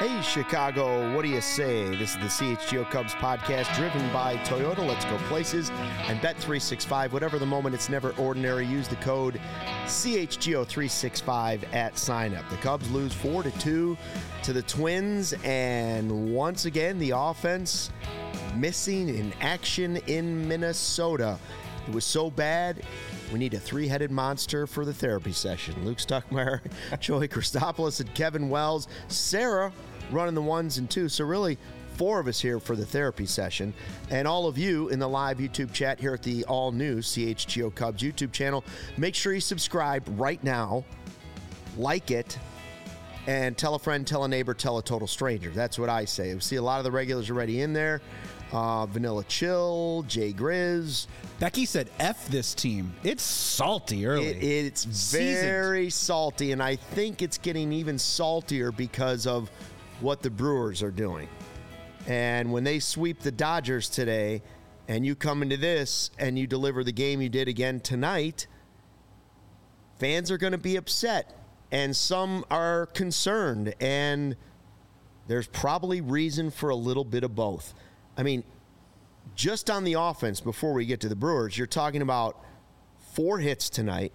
Hey, Chicago, what do you say? This is the CHGO Cubs podcast driven by Toyota. Let's go places and Bet365. Whatever the moment, it's never ordinary. Use the code CHGO365 at sign up. The Cubs lose 4-2 to the Twins, and once again, the offense missing in action in Minnesota. It was so bad, we need a three-headed monster for the therapy session. Luke Stuckmeyer, Joey Christopoulos, and Kevin Wells. Sarah running the ones and twos. So really, four of us here for the therapy session. And all of you in the live YouTube chat here at the all-new CHGO Cubs YouTube channel. Make sure you subscribe right now, like it, and tell a friend, tell a neighbor, tell a total stranger. That's what I say. We see a lot of the regulars already in there. Vanilla Chill, Jay Grizz. Becky said, F this team. It's salty early. It's very salty, and I think it's getting even saltier because of what the Brewers are doing. And when they sweep the Dodgers today, and you come into this, and you deliver the game you did again tonight, fans are going to be upset, and some are concerned, and there's probably reason for a little bit of both. I mean, just on the offense, before we get to the Brewers, you're talking about 4 hits tonight.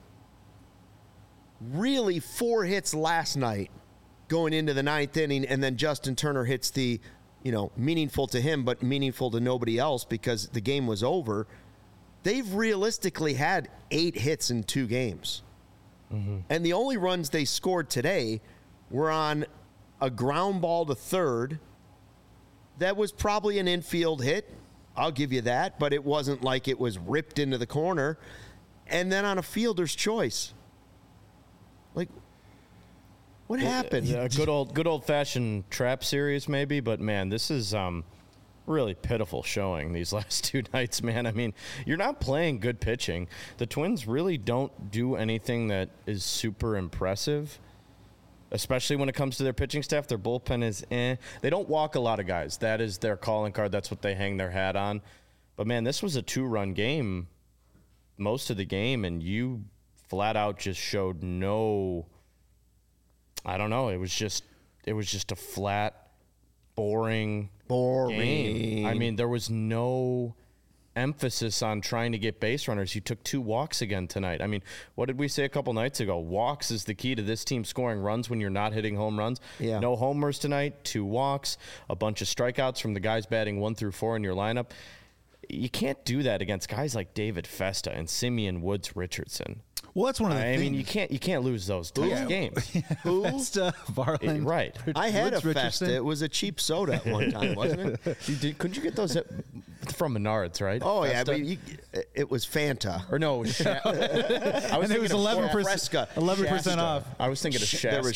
Really 4 hits last night going into the 9th inning, and then Justin Turner hits the, meaningful to him, but meaningful to nobody else because the game was over. They've realistically had 8 hits in 2 games. Mm-hmm. And the only runs they scored today were on a ground ball to third. That was probably an infield hit. I'll give you that, but it wasn't like it was ripped into the corner. And then on a fielder's choice. Like, what happened? Yeah, good old fashioned trap series maybe, but man, this is really pitiful showing these last 2 nights, man. I mean, you're not playing good pitching. The Twins really don't do anything that is super impressive. Especially when it comes to their pitching staff, their bullpen is They don't walk a lot of guys. That is their calling card. That's what they hang their hat on. But, man, this was a 2-run game most of the game, and you flat out just showed no – I don't know. It was just a flat, boring game. I mean, there was no – emphasis on trying to get base runners. You took 2 walks again tonight. I mean, what did we say a couple nights ago? Walks is the key to this team scoring runs when you're not hitting home runs. Yeah. No homers tonight, 2 walks, a bunch of strikeouts from the guys batting 1 through 4 in your lineup. You can't do that against guys like David Festa and Simeon Woods Richardson. Well, that's one of the things. I mean, you can't lose those games. Who? Festa, Varland. Right. I had Woods a Richardson. Festa. It was a cheap soda at one time, wasn't it? Couldn't you get those from Menards, right? Oh, Festa? yeah. It was Fanta. Or no, it was and it was 11%, Fresca. 11% off. I was thinking of Shasta. There was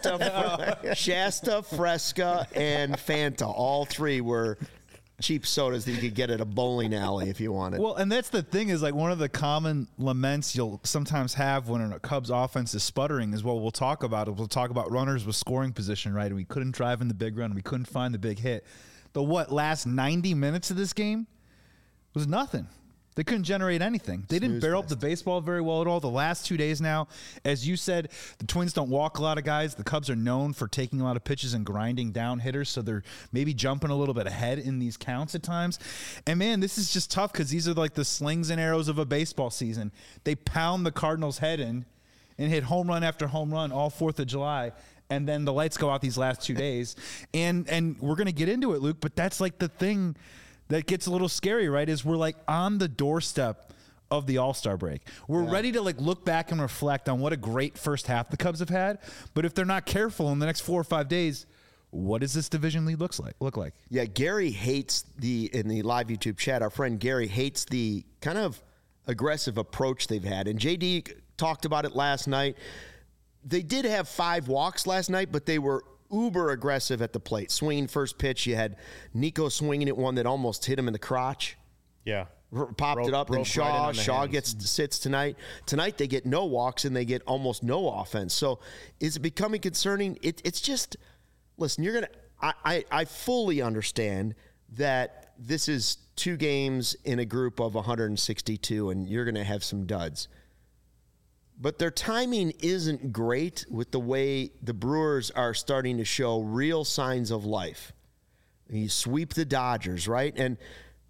Shasta, Fresca, and Fanta. All 3 were cheap sodas that you could get at a bowling alley if you wanted. Well, and that's the thing is like one of the common laments you'll sometimes have when a Cubs offense is sputtering is what we'll talk about. We'll talk about runners with scoring position, right? And we couldn't drive in the big run. We couldn't find the big hit. The last 90 minutes of this game was nothing. They couldn't generate anything. They didn't barrel up the baseball very well at all. The last 2 days now, as you said, the Twins don't walk a lot of guys. The Cubs are known for taking a lot of pitches and grinding down hitters, so they're maybe jumping a little bit ahead in these counts at times. And, man, this is just tough because these are like the slings and arrows of a baseball season. They pound the Cardinals' head in and hit home run after home run all 4th of July. And then the lights go out these last 2 days. And we're going to get into it, Luke, but that's like the thing that gets a little scary, right, is we're like on the doorstep of the All-Star break. We're ready to like look back and reflect on what a great first half the Cubs have had. But if they're not careful in the next 4 or 5 days, what does this division lead look like? Yeah, Gary hates in the live YouTube chat, our friend Gary hates the kind of aggressive approach they've had. And JD talked about it last night. They did have 5 walks last night, but they were uber aggressive at the plate. Swinging first pitch, you had Nico swinging at one that almost hit him in the crotch. Yeah. Popped it up, and Shaw sits tonight. Tonight they get no walks and they get almost no offense. So is it becoming concerning? It's just, listen, I fully understand that this is 2 games in a group of 162 and you're going to have some duds. but their timing isn't great with the way the Brewers are starting to show real signs of life. You sweep the Dodgers, right? And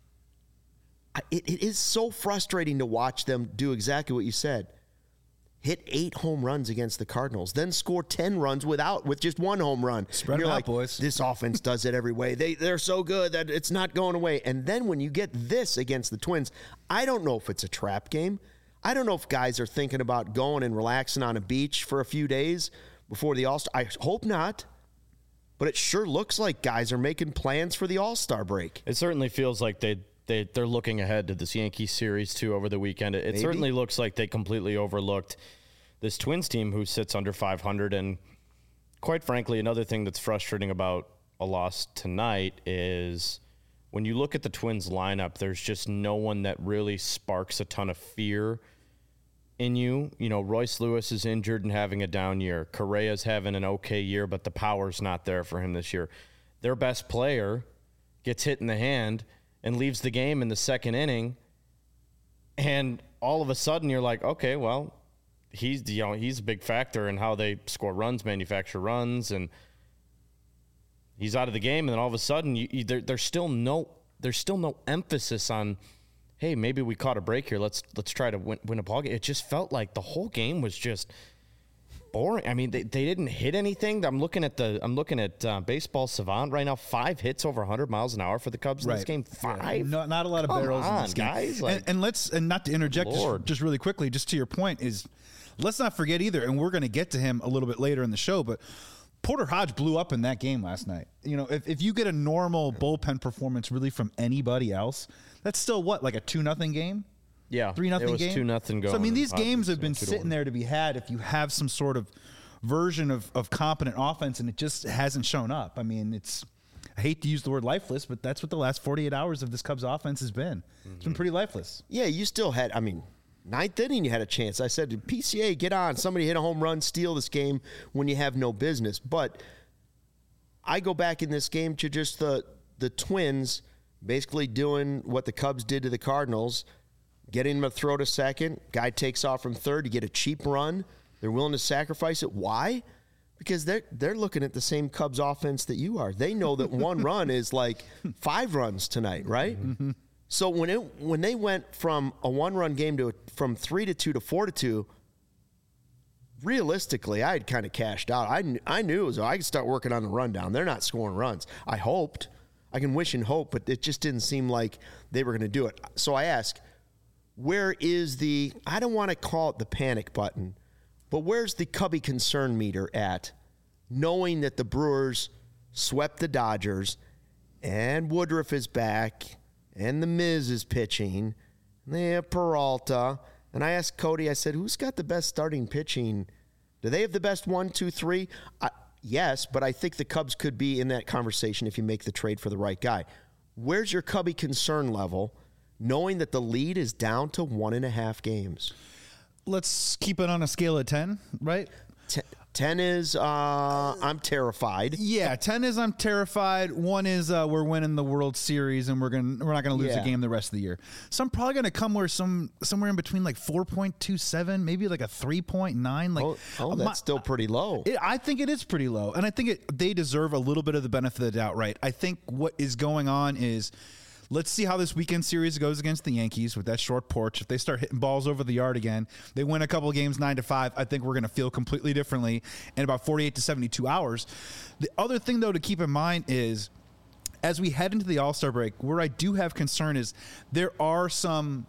it is so frustrating to watch them do exactly what you said. Hit 8 home runs against the Cardinals, then score 10 runs with just 1 home run. Spread them out, boys. This offense does it every way. They're so good that it's not going away. And then when you get this against the Twins, I don't know if it's a trap game. I don't know if guys are thinking about going and relaxing on a beach for a few days before the All-Star. I hope not. But it sure looks like guys are making plans for the All-Star break. It certainly feels like they're looking ahead to this Yankees series, too, over the weekend. It certainly looks like they completely overlooked this Twins team who sits under 500. And quite frankly, another thing that's frustrating about a loss tonight is when you look at the Twins lineup, there's just no one that really sparks a ton of fear in you. You know, Royce Lewis is injured and having a down year. Correa's having an okay year, but the power's not there for him this year. Their best player gets hit in the hand and leaves the game in the second inning. And all of a sudden you're like, okay, well, he's a big factor in how they score runs, manufacture runs, and he's out of the game. And then all of a sudden there's still no emphasis on, hey, maybe we caught a break here. Let's try to win a ball game. It just felt like the whole game was just boring. I mean, they didn't hit anything. I'm looking at Baseball Savant right now. 5 hits over 100 miles an hour for the Cubs in this game. 5. Yeah, not a lot of barrels in this game, guys. And not to interject, just really quickly, just to your point is, let's not forget either. And we're going to get to him a little bit later in the show, but Porter Hodge blew up in that game last night. You know, if you get a normal bullpen performance really from anybody else, that's still like a 2-0 game? Yeah. 3-0 game? It was 2-0 going. So, I mean, these games have been sitting there to be had if you have some sort of version of competent offense, and it just hasn't shown up. I mean, I hate to use the word lifeless, but that's what the last 48 hours of this Cubs offense has been. It's been pretty lifeless. Yeah, you still had, ninth inning, you had a chance. I said, PCA, get on. Somebody hit a home run, steal this game when you have no business. But I go back in this game to just the Twins basically doing what the Cubs did to the Cardinals, getting them to throw to second. Guy takes off from third. You get a cheap run. They're willing to sacrifice it. Why? Because they're looking at the same Cubs offense that you are. They know that 1 run is like 5 runs tonight, right? Mm-hmm. So when they went from a 1-run game from 3-2 to 4-2, realistically, I had kind of cashed out. I knew I could start working on the rundown. They're not scoring runs. I hoped. I can wish and hope, but it just didn't seem like they were going to do it. So I ask, where is I don't want to call it the panic button, but where's the Cubby concern meter at, knowing that the Brewers swept the Dodgers and Woodruff is back and the Miz is pitching, and they have Peralta. And I asked Cody, I said, who's got the best starting pitching? Do they have the best 1, 2, 3? Yes, but I think the Cubs could be in that conversation if you make the trade for the right guy. Where's your Cubby concern level, knowing that the lead is down to 1.5 games? Let's keep it on a scale of 10, right? 10 is I'm terrified. Yeah, 10 is I'm terrified. 1 is we're winning the World Series and we're not gonna lose a game the rest of the year. So I'm probably gonna come somewhere in between like 4.27, maybe like a 3.9. Like that's still pretty low. I think it is pretty low, and I think they deserve a little bit of the benefit of the doubt. Right? I think what is going on is, let's see how this weekend series goes against the Yankees with that short porch. If they start hitting balls over the yard again, they win a couple of games 9-5, I think we're going to feel completely differently in about 48 to 72 hours. The other thing, though, to keep in mind is, as we head into the All-Star break, where I do have concern is there are some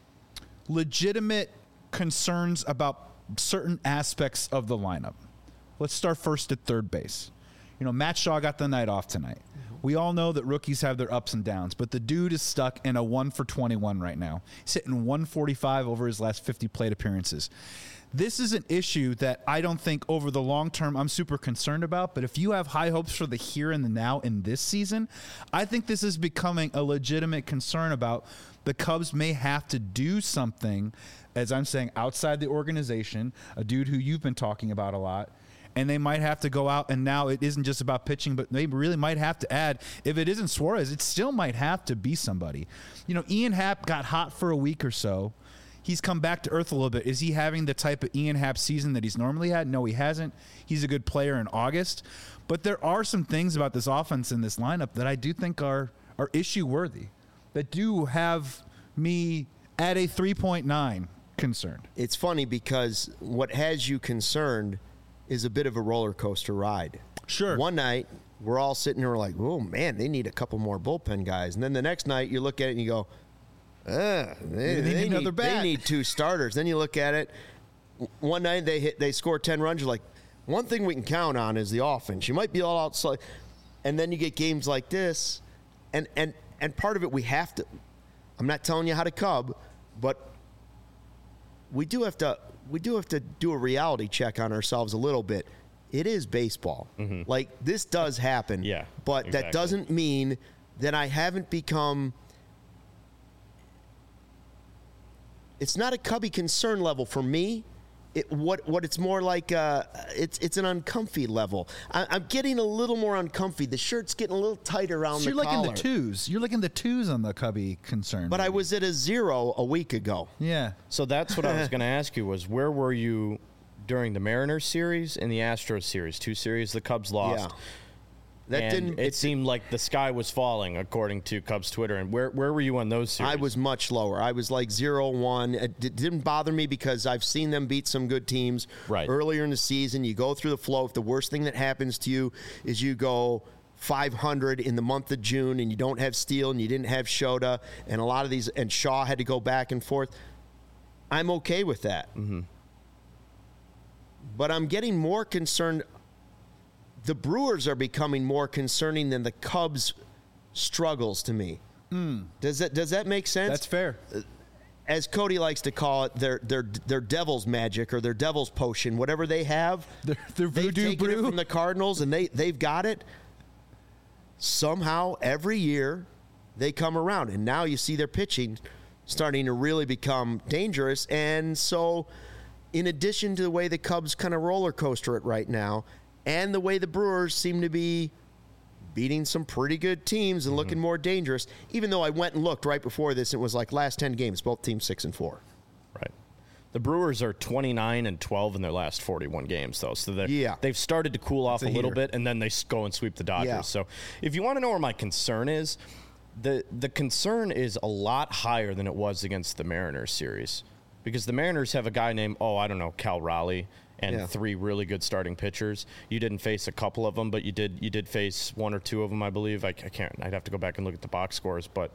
legitimate concerns about certain aspects of the lineup. Let's start first at third base. You know, Matt Shaw got the night off tonight. We all know that rookies have their ups and downs, but the dude is stuck in a 1-for-21 right now. He's hitting 145 over his last 50 plate appearances. This is an issue that I don't think over the long term I'm super concerned about, but if you have high hopes for the here and the now in this season, I think this is becoming a legitimate concern about the Cubs may have to do something, as I'm saying, outside the organization, a dude who you've been talking about a lot. And they might have to go out, and now it isn't just about pitching, but they really might have to add, if it isn't Suarez, it still might have to be somebody. You know, Ian Happ got hot for a week or so. he's come back to earth a little bit. Is he having the type of Ian Happ season that he's normally had? No, he hasn't. He's a good player in August. But there are some things about this offense and this lineup that I do think are issue worthy, that do have me at a 3.9 concerned. It's funny because what has you concerned is a bit of a roller coaster ride. Sure. One night, we're all sitting here like, oh, man, they need a couple more bullpen guys. And then the next night, you look at it and you go, they need another bat. They need 2 starters. Then you look at it. One night, they score 10 runs. You're like, one thing we can count on is the offense. You might be all outside. And then you get games like this. And part of it we have to – I'm not telling you how to Cub, but we do have to do a reality check on ourselves a little bit. It is baseball. Mm-hmm. Like, this does happen. Yeah, but exactly. That doesn't mean that I haven't become – it's not a Cubby concern level for me. What it's more like, it's an uncomfy level. I'm getting a little more uncomfy. The shirt's getting a little tight around the collar. You're liking the twos. You're liking the twos on the Cubby concern. But I was at a 0 a week ago. Yeah. So that's what I was going to ask you was, where were you during the Mariners series and the Astros series? 2 series the Cubs lost. Yeah. It seemed like the sky was falling, according to Cubs Twitter. And where were you on those series? I was much lower. I was like 0-1. It didn't bother me because I've seen them beat some good teams earlier in the season. You go through the flow. If the worst thing that happens to you is you go 500 in the month of June and you don't have Steele and you didn't have Shota and a lot of these, and Shaw had to go back and forth, I'm okay with that. Mm-hmm. But I'm getting more concerned. The Brewers are becoming more concerning than the Cubs' struggles to me. Does that make sense? That's fair. As Cody likes to call it, their devil's magic or their devil's potion, whatever they have. Their they've voodoo taken it brew from the Cardinals, and they've got it. Somehow, every year, they come around, and now you see their pitching starting to really become dangerous. And so, in addition to the way the Cubs kind of roller coaster it right now, and the way the Brewers seem to be beating some pretty good teams and looking more dangerous, even though I went and looked right before this, it was like last 10 games, both teams 6-4. Right. The Brewers are 29-12 in their last 41 games, though. So they've started to cool off a little bit, and then they go and sweep the Dodgers. Yeah. So if you want to know where my concern is, the concern is a lot higher than it was against the Mariners series. Because the Mariners have a guy named, Cal Raleigh, and 3 really good starting pitchers. You didn't face a couple of them, but you did face 1 or 2 of them, I believe. I can't. I'd have to go back and look at the box scores. But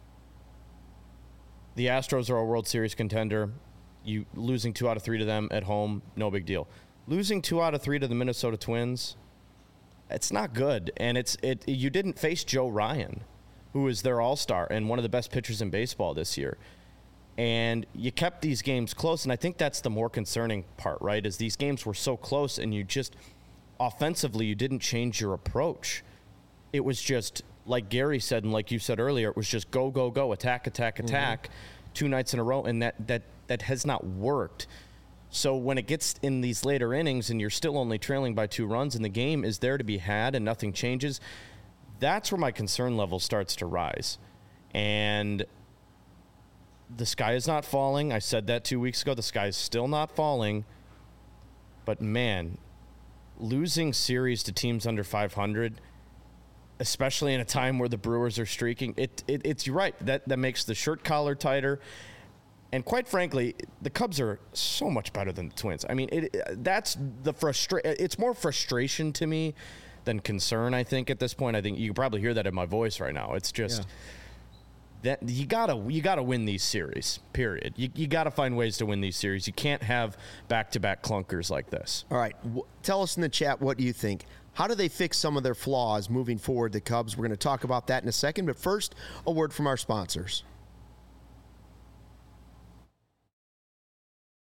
the Astros are a World Series contender. You losing 2 out of 3 to them at home, no big deal. Losing 2 out of 3 to the Minnesota Twins, it's not good. And you didn't face Joe Ryan, who is their all-star and one of the best pitchers in baseball this year. And you kept these games close, and I think that's the more concerning part, right, is these games were so close, and you just, offensively, you didn't change your approach. It was just, like Gary said, and like you said earlier, it was just go, go, go, attack, attack, attack, 2 nights in a row, and that has not worked. So when it gets in these later innings, and you're still only trailing by 2 runs, and the game is there to be had, and nothing changes, that's where my concern level starts to rise. And the sky is not falling. I said that 2 weeks ago. The sky is still not falling. But, man, losing series to teams under 500, especially in a time where the Brewers are streaking, it's you're right. That makes the shirt collar tighter. And quite frankly, the Cubs are so much better than the Twins. I mean, that's the it's more frustration to me than concern, I think, at this point. I think you can probably hear that in my voice right now. It's just... Yeah. That you gotta win these series, period. You gotta find ways to win these series. You can't have back-to-back clunkers like this. All right, tell us in the chat what you think. How do they fix some of their flaws moving forward, the Cubs? We're going to talk about that in a second, but first, a word from our sponsors.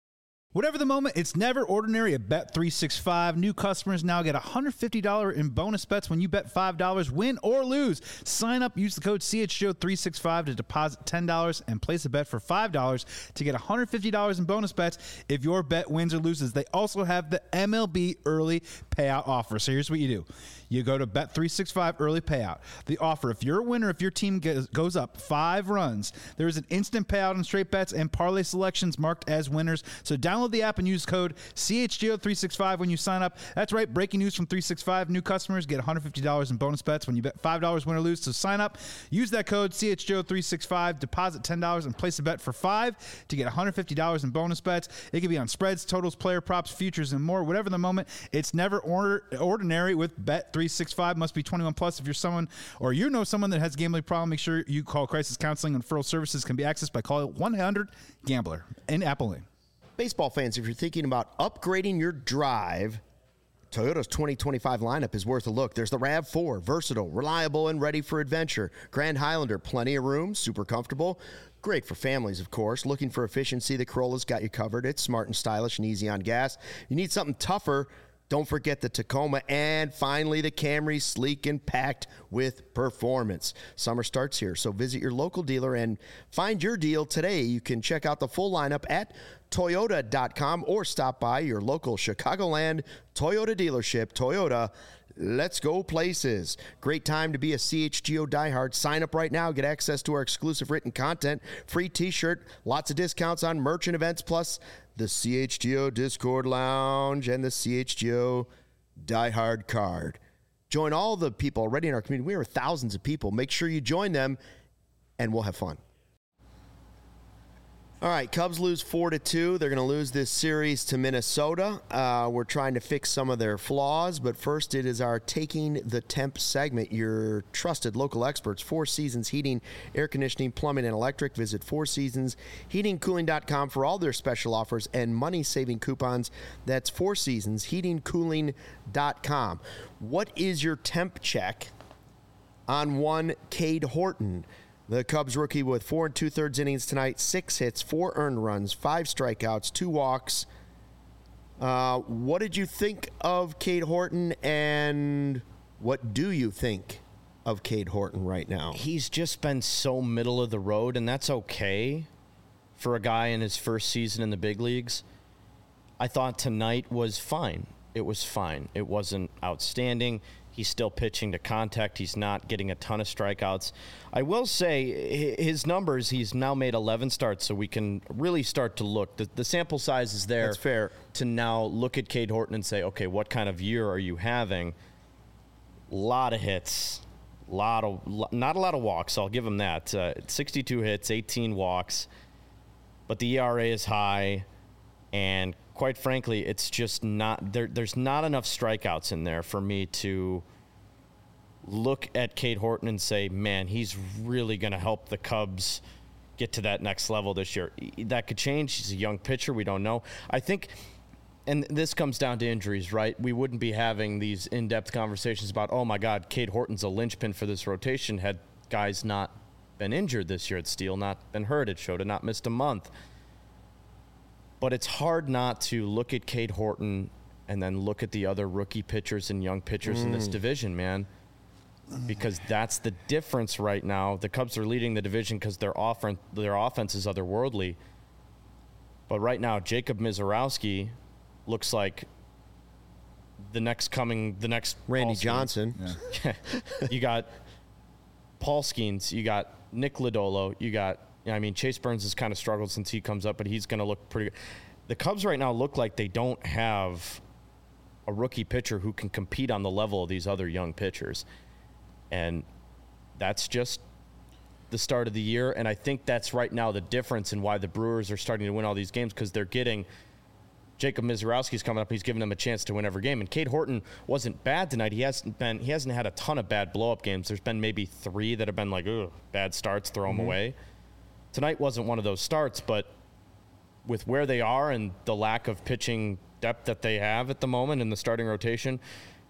Whatever the moment, it's never ordinary at Bet365. New customers now get $150 in bonus bets when you bet $5, win or lose. Sign up, use the code CHGO365 to deposit $10 and place a bet for $5 to get $150 in bonus bets if your bet wins or loses. They also have the MLB early payout offer. So here's what you do. You go to Bet365 early payout. The offer, if you're a winner, if your team goes up 5 runs, there is an instant payout on straight bets and parlay selections marked as winners. So download the app and use code CHGO365 when you sign up. That's right, breaking news from 365. New customers get $150 in bonus bets when you bet $5, win or lose. So sign up, use that code CHGO365, deposit $10 and place a bet for $5 to get $150 in bonus bets. It can be on spreads, totals, player props, futures, and more. Whatever the moment, it's never ordinary with Bet365. Must be 21 plus. If you're someone or you know someone that has a gambling problem, make sure you call Crisis Counseling and Referral Services. Can be accessed by calling 1-800-GAMBLER in Apple Lane. Baseball fans, if you're thinking about upgrading your drive, Toyota's 2025 lineup is worth a look. There's the RAV4, versatile, reliable, and ready for adventure. Grand Highlander, plenty of room, super comfortable. Great for families, of course. Looking for efficiency, the Corolla's got you covered. It's smart and stylish and easy on gas. You need something tougher, don't forget the Tacoma, and finally the Camry, sleek and packed with performance. Summer starts here, so visit your local dealer and find your deal today. You can check out the full lineup at Toyota.com or stop by your local Chicagoland Toyota dealership. Toyota, let's go places. Great time to be a CHGO diehard. Sign up right now. Get access to our exclusive written content, free t-shirt, lots of discounts on merch and events, plus the CHGO Discord Lounge and the CHGO diehard card. Join all the people already in our community. We are thousands of people. Make sure you join them, and we'll have fun. All right, Cubs lose 4-2. They're going to lose this series to Minnesota. We're trying to fix some of their flaws, but first it is our Taking the Temp segment. Your trusted local experts, Four Seasons Heating, Air Conditioning, Plumbing, and Electric. Visit fourseasonsheatingcooling.com for all their special offers and money-saving coupons. That's fourseasonsheatingcooling.com. What is your temp check on one Cade Horton? The Cubs rookie with 4 2/3 innings tonight, 6 hits, 4 earned runs, 5 strikeouts, 2 walks. What did you think of Cade Horton, and what do you think of Cade Horton right now? He's just been so middle of the road, and that's okay for a guy in his first season in the big leagues. I thought tonight was fine. It was fine. It wasn't outstanding. He's still pitching to contact. He's not getting a ton of strikeouts. I will say his numbers, he's now made 11 starts, so we can really start to look. The sample size is there. That's fair. To now look at Cade Horton and say, okay, what kind of year are you having? A lot of hits, not a lot of walks. I'll give him that. 62 hits, 18 walks, but the ERA is high, and quite frankly, it's just not there. There's not enough strikeouts in there for me to look at Cade Horton and say, man, he's really going to help the Cubs get to that next level this year. That could change. He's a young pitcher. We don't know. I think, and this comes down to injuries, right? We wouldn't be having these in-depth conversations about, oh, my God, Cade Horton's a linchpin for this rotation had guys not been injured this year at Steele, not been hurt at Shota, not missed a month. But it's hard not to look at Cade Horton and then look at the other rookie pitchers and young pitchers in this division, man, because that's the difference right now. The Cubs are leading the division because their offense is otherworldly. But right now, Jacob Misiorowski looks like the next Randy Johnson. Yeah. You got Paul Skeens, you got Nick Lodolo, you got, I mean, Chase Burns has kind of struggled since he comes up, but he's going to look pretty good. The Cubs right now look like they don't have a rookie pitcher who can compete on the level of these other young pitchers. And that's just the start of the year. And I think that's right now the difference in why the Brewers are starting to win all these games, because they're getting Jacob Misiorowski's coming up. He's giving them a chance to win every game. And Cade Horton wasn't bad tonight. He hasn't had a ton of bad blow-up games. There's been maybe 3 that have been like, ugh, bad starts, throw them away. Tonight wasn't one of those starts, but with where they are and the lack of pitching depth that they have at the moment in the starting rotation,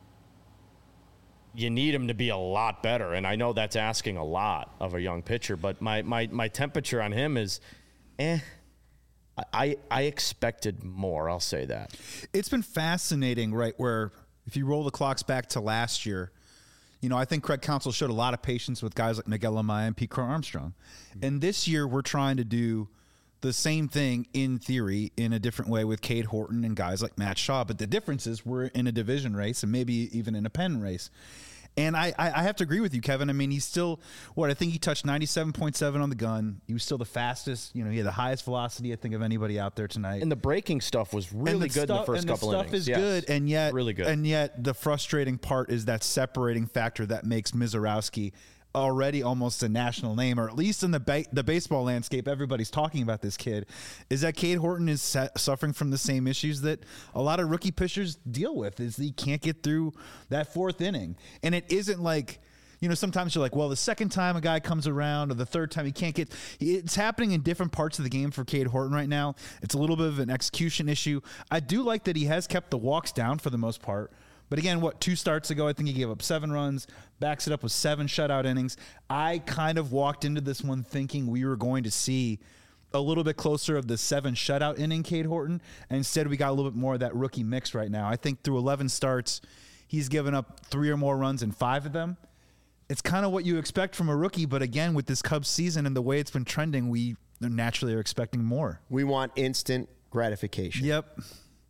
you need him to be a lot better. And I know that's asking a lot of a young pitcher, but my temperature on him is, I expected more. I'll say that. It's been fascinating, right? Where if you roll the clocks back to last year, I think Craig Counsell showed a lot of patience with guys like Miguel Amaya and Pete Crow-Armstrong. And this year we're trying to do the same thing in theory in a different way with Cade Horton and guys like Matt Shaw. But the difference is we're in a division race and maybe even in a pen race. And I have to agree with you, Kevin. I mean, he's still, I think he touched 97.7 on the gun. He was still the fastest. He had the highest velocity, I think, of anybody out there tonight. And the breaking stuff was really good in the first couple innings. And the stuff is good, and yet really good. And yet the frustrating part is that separating factor that makes Mizorowski already almost a national name, or at least in the baseball landscape, everybody's talking about this kid, is that Cade Horton is suffering from the same issues that a lot of rookie pitchers deal with, is he can't get through that fourth inning. And it isn't like, sometimes you're like, well, the second time a guy comes around or the third time he can't get, it's happening in different parts of the game for Cade Horton right now. It's a little bit of an execution issue. I do like that he has kept the walks down for the most part. But again, 2 starts ago, I think he gave up 7 runs, backs it up with 7 shutout innings. I kind of walked into this one thinking we were going to see a little bit closer of the 7 shutout inning Cade Horton. And instead, we got a little bit more of that rookie mix right now. I think through 11 starts, he's given up 3 or more runs in 5 of them. It's kind of what you expect from a rookie. But again, with this Cubs season and the way it's been trending, we naturally are expecting more. We want instant gratification. Yep.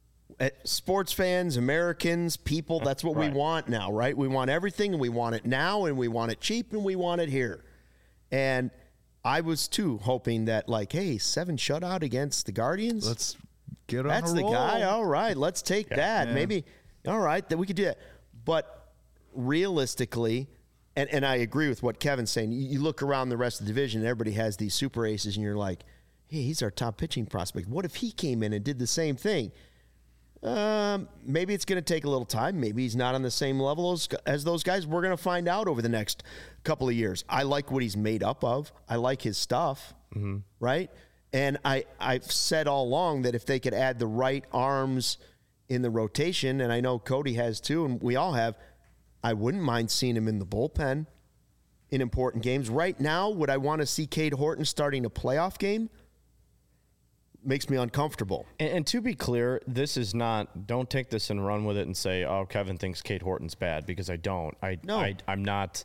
Sports fans, Americans, people, that's what we want now, right? We want everything, and we want it now, and we want it cheap, and we want it here. And I was, too, hoping that, hey, 7 shutout against the Guardians. Let's get on That's a the roll. guy. All right, let's take that. Yeah. Maybe, all right, that we could do that. But realistically, and I agree with what Kevin's saying, you look around the rest of the division, everybody has these super aces, and you're like, hey, he's our top pitching prospect. What if he came in and did the same thing? Maybe it's going to take a little time. Maybe he's not on the same level as those guys. We're going to find out over the next couple of years. I like what he's made up of. I like his stuff, right? And I've said all along that if they could add the right arms in the rotation, and I know Cody has too, and we all have, I wouldn't mind seeing him in the bullpen in important games. Right now, would I want to see Cade Horton starting a playoff game? Makes me uncomfortable. And to be clear, this is not, don't take this and run with it and say, oh, Kevin thinks Cade Horton's bad, because I don't. I'm not.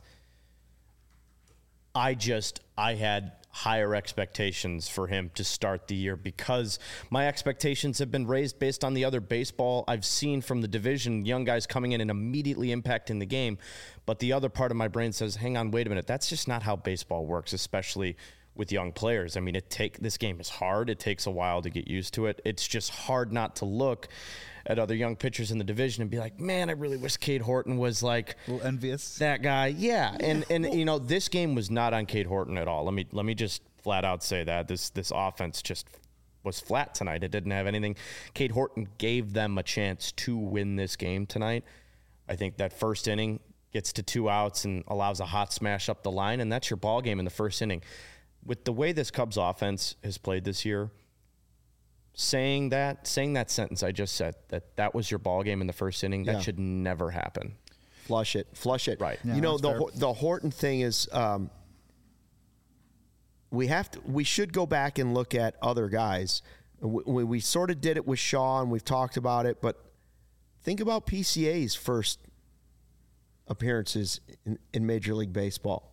I had higher expectations for him to start the year because my expectations have been raised based on the other baseball I've seen from the division, young guys coming in and immediately impacting the game. But the other part of my brain says, hang on, wait a minute. That's just not how baseball works, especially with young players. I mean, this game is hard. It takes a while to get used to it. It's just hard not to look at other young pitchers in the division and be like, man, I really wish Cade Horton was like a little envious. That guy. Yeah. And this game was not on Cade Horton at all. Let me just flat out say that this offense just was flat tonight. It didn't have anything. Cade Horton gave them a chance to win this game tonight. I think that first inning gets to 2 outs and allows a hot smash up the line, and that's your ball game in the first inning. With the way this Cubs offense has played this year, saying that sentence I just said, that was your ball game in the first inning, that should never happen. Flush it. Right. Yeah, the Horton thing is, we should go back and look at other guys. We sort of did it with Shaw, and we've talked about it, but think about PCA's first appearances in Major League Baseball.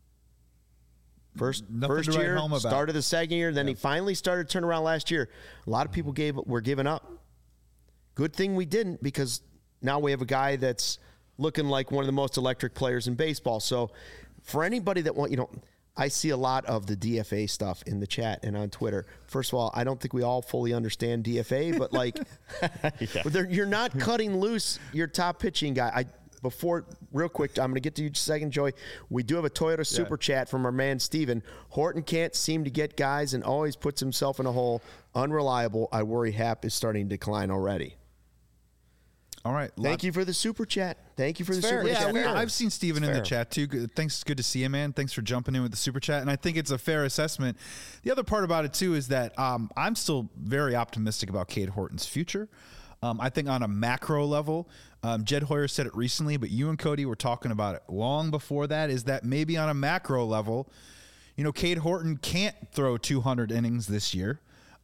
First year, start of the second year, then he finally started to turn around last year. A lot of people were giving up. Good thing we didn't, because now we have a guy that's looking like one of the most electric players in baseball. So for anybody that I see a lot of the DFA stuff in the chat and on Twitter. First of all, I don't think we all fully understand DFA, but you're not cutting loose your top pitching guy. Real quick, I'm going to get to you in a second, Joey. We do have a Toyota Super Chat from our man, Steven. Horton can't seem to get guys and always puts himself in a hole. Unreliable. I worry Hap is starting to decline already. All right. Thank you for the Super Chat. Thank you for the Super Chat. I've seen Steven in the chat, too. Thanks. Good to see you, man. Thanks for jumping in with the Super Chat. And I think it's a fair assessment. The other part about it, too, is that I'm still very optimistic about Cade Horton's future. I think on a macro level, Jed Hoyer said it recently, but you and Cody were talking about it long before that, is that maybe on a macro level, Cade Horton can't throw 200 innings this year.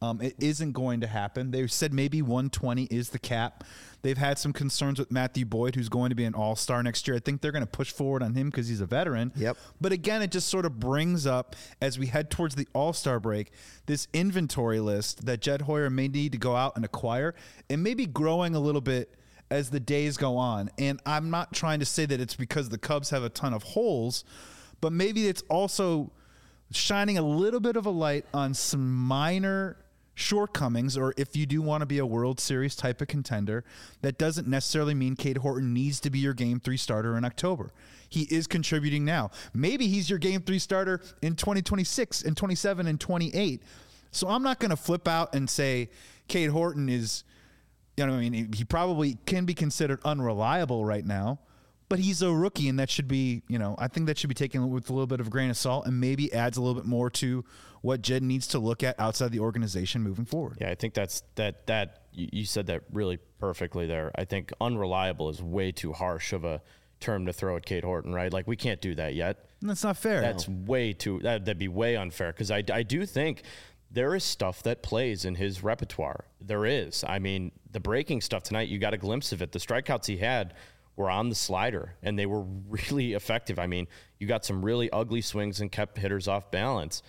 It isn't going to happen. They said maybe 120 is the cap. They've had some concerns with Matthew Boyd, who's going to be an all-star next year. I think they're going to push forward on him because he's a veteran. Yep. But again, it just sort of brings up, as we head towards the all-star break, this inventory list that Jed Hoyer may need to go out and acquire, and maybe growing a little bit as the days go on. And I'm not trying to say that it's because the Cubs have a ton of holes, but maybe it's also shining a little bit of a light on some minor shortcomings, or if you do want to be a World Series type of contender, that doesn't necessarily mean Cade Horton needs to be your Game 3 starter in October. He is contributing now. Maybe he's your Game 3 starter in 2026 and 27 and 28. So I'm not going to flip out and say Cade Horton is, you know, I mean, he probably can be considered unreliable right now, but he's a rookie, and that should be, you know, I think that should be taken with a little bit of a grain of salt, and maybe adds a little bit more to what Jed needs to look at outside the organization moving forward. Yeah, I think that's that you said that really perfectly there. I think unreliable is way too harsh of a term to throw at Cade Horton, right? Like, we can't do that yet. That's not fair. That's way too, that'd be way unfair, because I do think there is stuff that plays in his repertoire. There is. I mean, the breaking stuff tonight, you got a glimpse of it. The strikeouts he had were on the slider, and they were really effective. I mean, you got some really ugly swings and kept hitters off balance.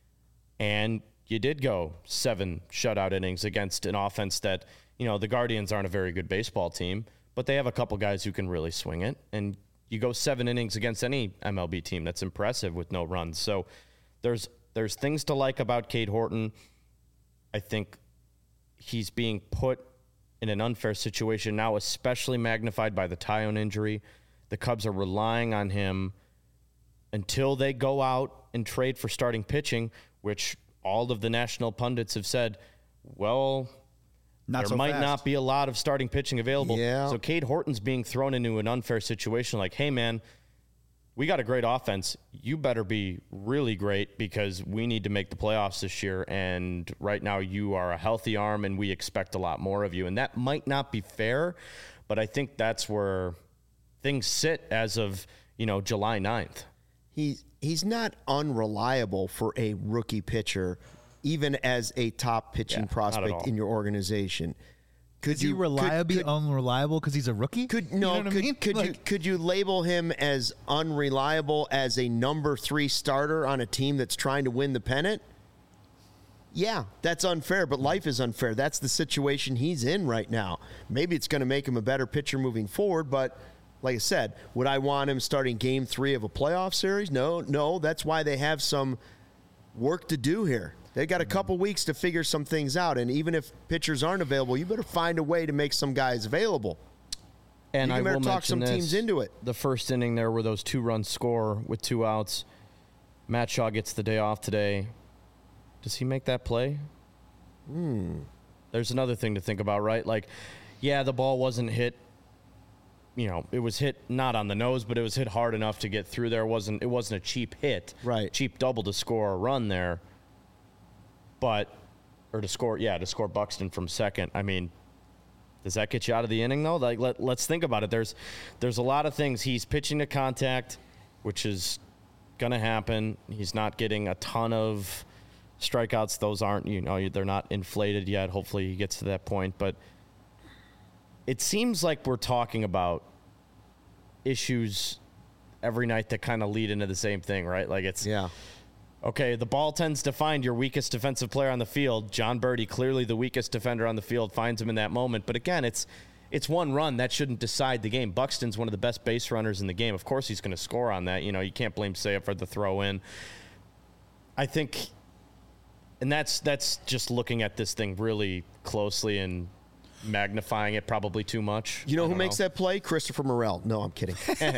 And you did go 7 shutout innings against an offense that, you know, the Guardians aren't a very good baseball team, but they have a couple guys who can really swing it. And you go 7 innings against any MLB team. That's impressive with no runs. So there's things to like about Cade Horton. I think he's being put in an unfair situation now, especially magnified by the Taillon injury. The Cubs are relying on him until they go out and trade for starting pitching, which all of the national pundits have said, well, there might not be a lot of starting pitching available. Yeah. So Cade Horton's being thrown into an unfair situation like, hey, man, we got a great offense. You better be really great because we need to make the playoffs this year. And right now you are a healthy arm and we expect a lot more of you. And that might not be fair, but I think that's where things sit as of, you know, July 9th. He's not unreliable for a rookie pitcher, even as a top pitching prospect in your organization. Is he unreliable because he's a rookie? Could you label him as unreliable as a number 3 starter on a team that's trying to win the pennant? Yeah, that's unfair, but life is unfair. That's the situation he's in right now. Maybe it's going to make him a better pitcher moving forward, but like I said, would I want him starting Game 3 of a playoff series? No. That's why they have some work to do here. They got a couple weeks to figure some things out, and even if pitchers aren't available, you better find a way to make some guys available. And you better talk some teams into it. The first inning there were those 2-run score with 2 outs. Matt Shaw gets the day off today. Does he make that play? There's another thing to think about, right? Like, yeah, the ball wasn't hit. You know, it was hit not on the nose, but it was hit hard enough to get through there. It wasn't a cheap hit. Right. Cheap double to score a run there. To score Buxton from second. I mean, does that get you out of the inning, though? Like, let's think about it. There's a lot of things. He's pitching to contact, which is going to happen. He's not getting a ton of strikeouts. Those aren't, they're not inflated yet. Hopefully he gets to that point. But it seems like we're talking about issues every night that kind of lead into the same thing, right? Like, it's... Yeah. Okay, the ball tends to find your weakest defensive player on the field. John Birdie, clearly the weakest defender on the field, finds him in that moment. But again, it's one run. That shouldn't decide the game. Buxton's one of the best base runners in the game. Of course he's going to score on that. You can't blame Seiya for the throw in. I think, and that's just looking at this thing really closely and magnifying it probably too much. You know who makes that play? Christopher Morel. No, I'm kidding.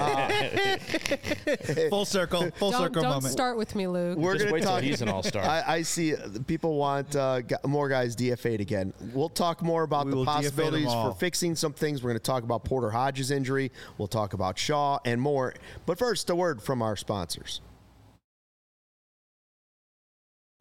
Full circle moment. Don't start with me, Luke. We're Just going wait to talk. till he's an all-star. I see people want more guys DFA'd again. We'll talk more about the possibilities for fixing some things. We're going to talk about Porter Hodges' injury. We'll talk about Shaw and more. But first, a word from our sponsors.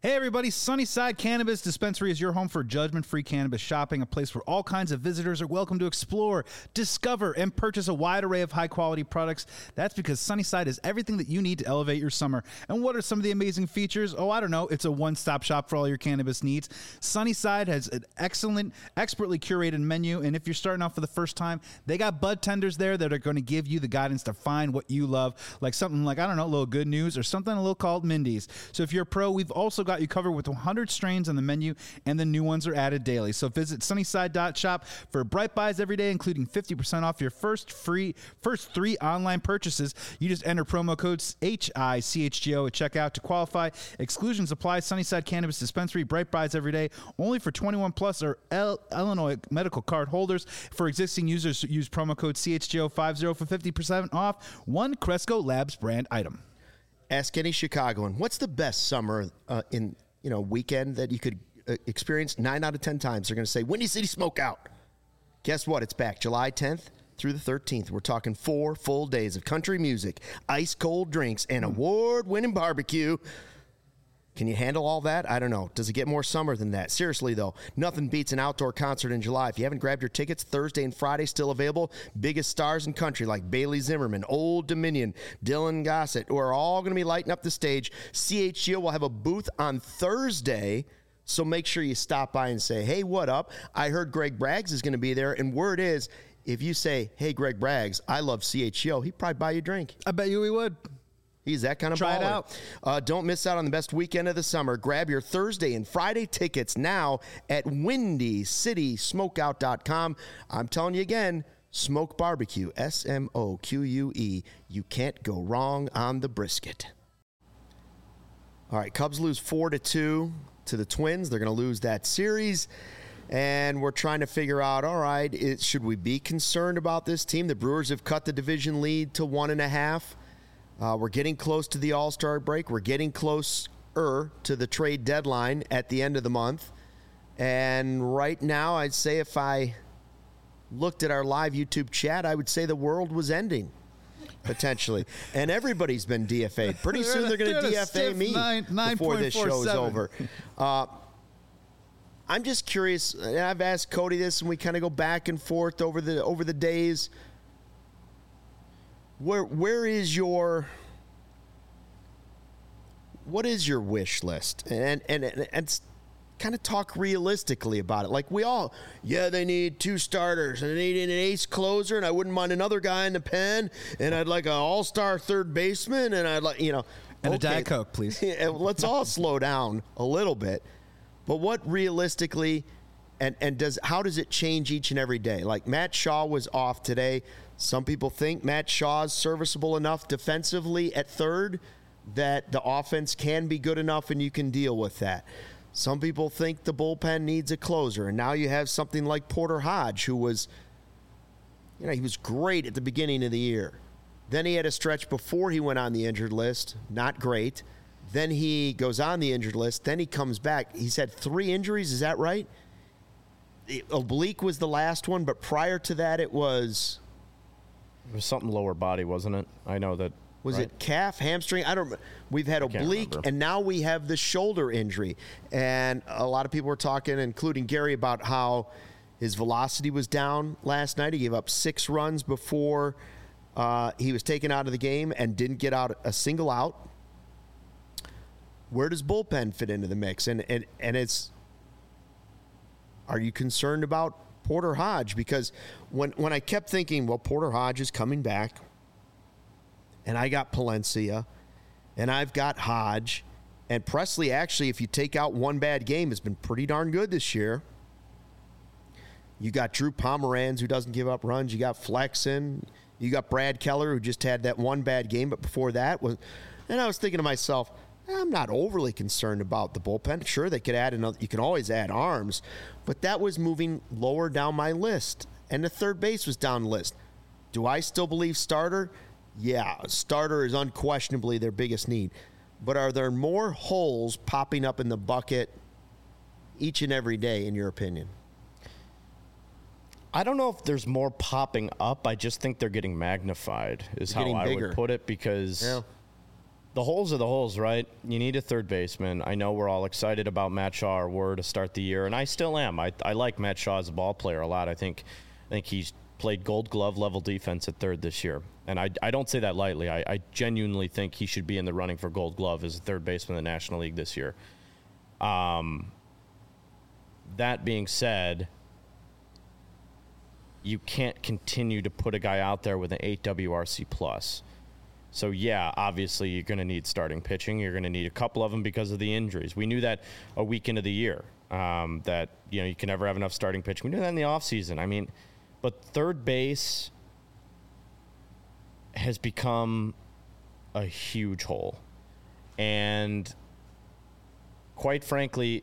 Hey everybody, Sunnyside Cannabis Dispensary is your home for judgment-free cannabis shopping, a place where all kinds of visitors are welcome to explore, discover, and purchase a wide array of high-quality products. That's because Sunnyside is everything that you need to elevate your summer. And what are some of the amazing features? Oh, I don't know. It's a one-stop shop for all your cannabis needs. Sunnyside has an excellent, expertly curated menu, and if you're starting off for the first time, they got bud tenders there that are going to give you the guidance to find what you love, like something like, I don't know, a little Good News or something a little called Mindy's. So if you're a pro, we've also got you covered with 100 strains on the menu, and the new ones are added daily. So visit sunnyside.shop for bright buys every day, including 50% off your first 3 online purchases. You just enter promo code HICHGO at checkout to qualify. Exclusions apply. Sunnyside Cannabis Dispensary, bright buys every day, only for 21 plus or Illinois medical card holders. For existing users, use promo code CHGO50 for 50% off one Cresco Labs brand item. Ask any Chicagoan, what's the best summer weekend that you could experience? 9 out of 10 times they're going to say Windy City Smokeout. Guess what? It's back July 10th through the 13th. We're talking 4 full days of country music, ice cold drinks, and award-winning barbecue. Can you handle all that? I don't know. Does it get more summer than that? Seriously, though, nothing beats an outdoor concert in July. If you haven't grabbed your tickets, Thursday and Friday still available. Biggest stars in country like Bailey Zimmerman, Old Dominion, Dylan Gossett, who are all going to be lighting up the stage. CHGO will have a booth on Thursday, so make sure you stop by and say, hey, what up? I heard Greg Braggs is going to be there, and word is, if you say, hey, Greg Braggs, I love CHGO, he'd probably buy you a drink. I bet you we would. He's that kind of baller. Try it out. Don't miss out on the best weekend of the summer. Grab your Thursday and Friday tickets now at WindyCitySmokeout.com. I'm telling you again, Smoke Barbecue, SMOQUE. You can't go wrong on the brisket. All right, Cubs lose 4-2 to the Twins. They're going to lose that series. And we're trying to figure out, all right, should we be concerned about this team? The Brewers have cut the division lead to 1.5. We're getting close to the All-Star break. We're getting closer to the trade deadline at the end of the month. And right now, I'd say if I looked at our live YouTube chat, I would say the world was ending, potentially. And everybody's been DFA'd. Pretty soon they're going to DFA me before this show is over. I'm just curious, and I've asked Cody this, and we kind of go back and forth over the days. What is your wish list? And kind of talk realistically about it. Like they need 2 starters and they need an ace closer, and I wouldn't mind another guy in the pen, and I'd like an all-star third baseman, and I'd like, and a Diet Coke, please. Let's all slow down a little bit. But what realistically, how does it change each and every day? Like Matt Shaw was off today. Some people think Matt Shaw's serviceable enough defensively at third that the offense can be good enough and you can deal with that. Some people think the bullpen needs a closer, and now you have something like Porter Hodge, who was, he was great at the beginning of the year. Then he had a stretch before he went on the injured list, not great. Then he goes on the injured list. Then he comes back. He's had 3 injuries, is that right? Oblique was the last one, but prior to that it was something lower body, wasn't it? I know that. Was it calf, hamstring? I don't. We've had oblique, and now we have the shoulder injury. And a lot of people were talking, including Gary, about how his velocity was down last night. He gave up 6 runs before he was taken out of the game and didn't get out a single out. Where does bullpen fit into the mix? And it's. Are you concerned about Porter Hodge? Because when I kept thinking, well, Porter Hodge is coming back, and I got Palencia, and I've got Hodge, and Presley actually, if you take out one bad game, has been pretty darn good this year. You got Drew Pomeranz, who doesn't give up runs. You got Flexen. You got Brad Keller, who just had that one bad game, but before that was. And I was thinking to myself, I'm not overly concerned about the bullpen. Sure, they could add another. You can always add arms, but that was moving lower down my list, and the third base was down the list. Do I still believe starter? Yeah, starter is unquestionably their biggest need. But are there more holes popping up in the bucket each and every day, in your opinion? I don't know if there's more popping up. I just think they're getting magnified, is how I would put it, because The holes are the holes, right? You need a third baseman. I know we're all excited about Matt Shaw, or were to start the year, and I still am. I like Matt Shaw as a ball player a lot. I think he's played Gold Glove level defense at third this year, and I don't say that lightly. I genuinely think he should be in the running for Gold Glove as a third baseman in the National League this year. That being said, you can't continue to put a guy out there with an 8 WRC plus. So, yeah, obviously you're going to need starting pitching. You're going to need a couple of them because of the injuries. We knew that a week into the year, that, you can never have enough starting pitching. We knew that in the offseason. I mean, but third base has become a huge hole. And quite frankly,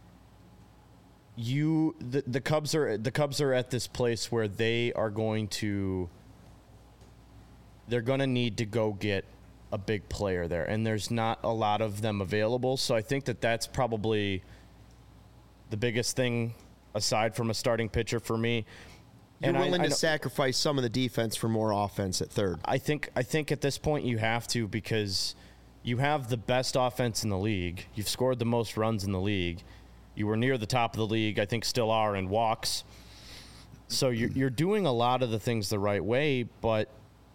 the Cubs are at this place where they're going to need to go get a big player there, and there's not a lot of them available. So I think that's probably the biggest thing aside from a starting pitcher for me. You're willing to sacrifice some of the defense for more offense at third. I think at this point you have to, because you have the best offense in the league. You've scored the most runs in the league. You were near the top of the league, I think still are, in walks. So you're doing a lot of the things the right way, but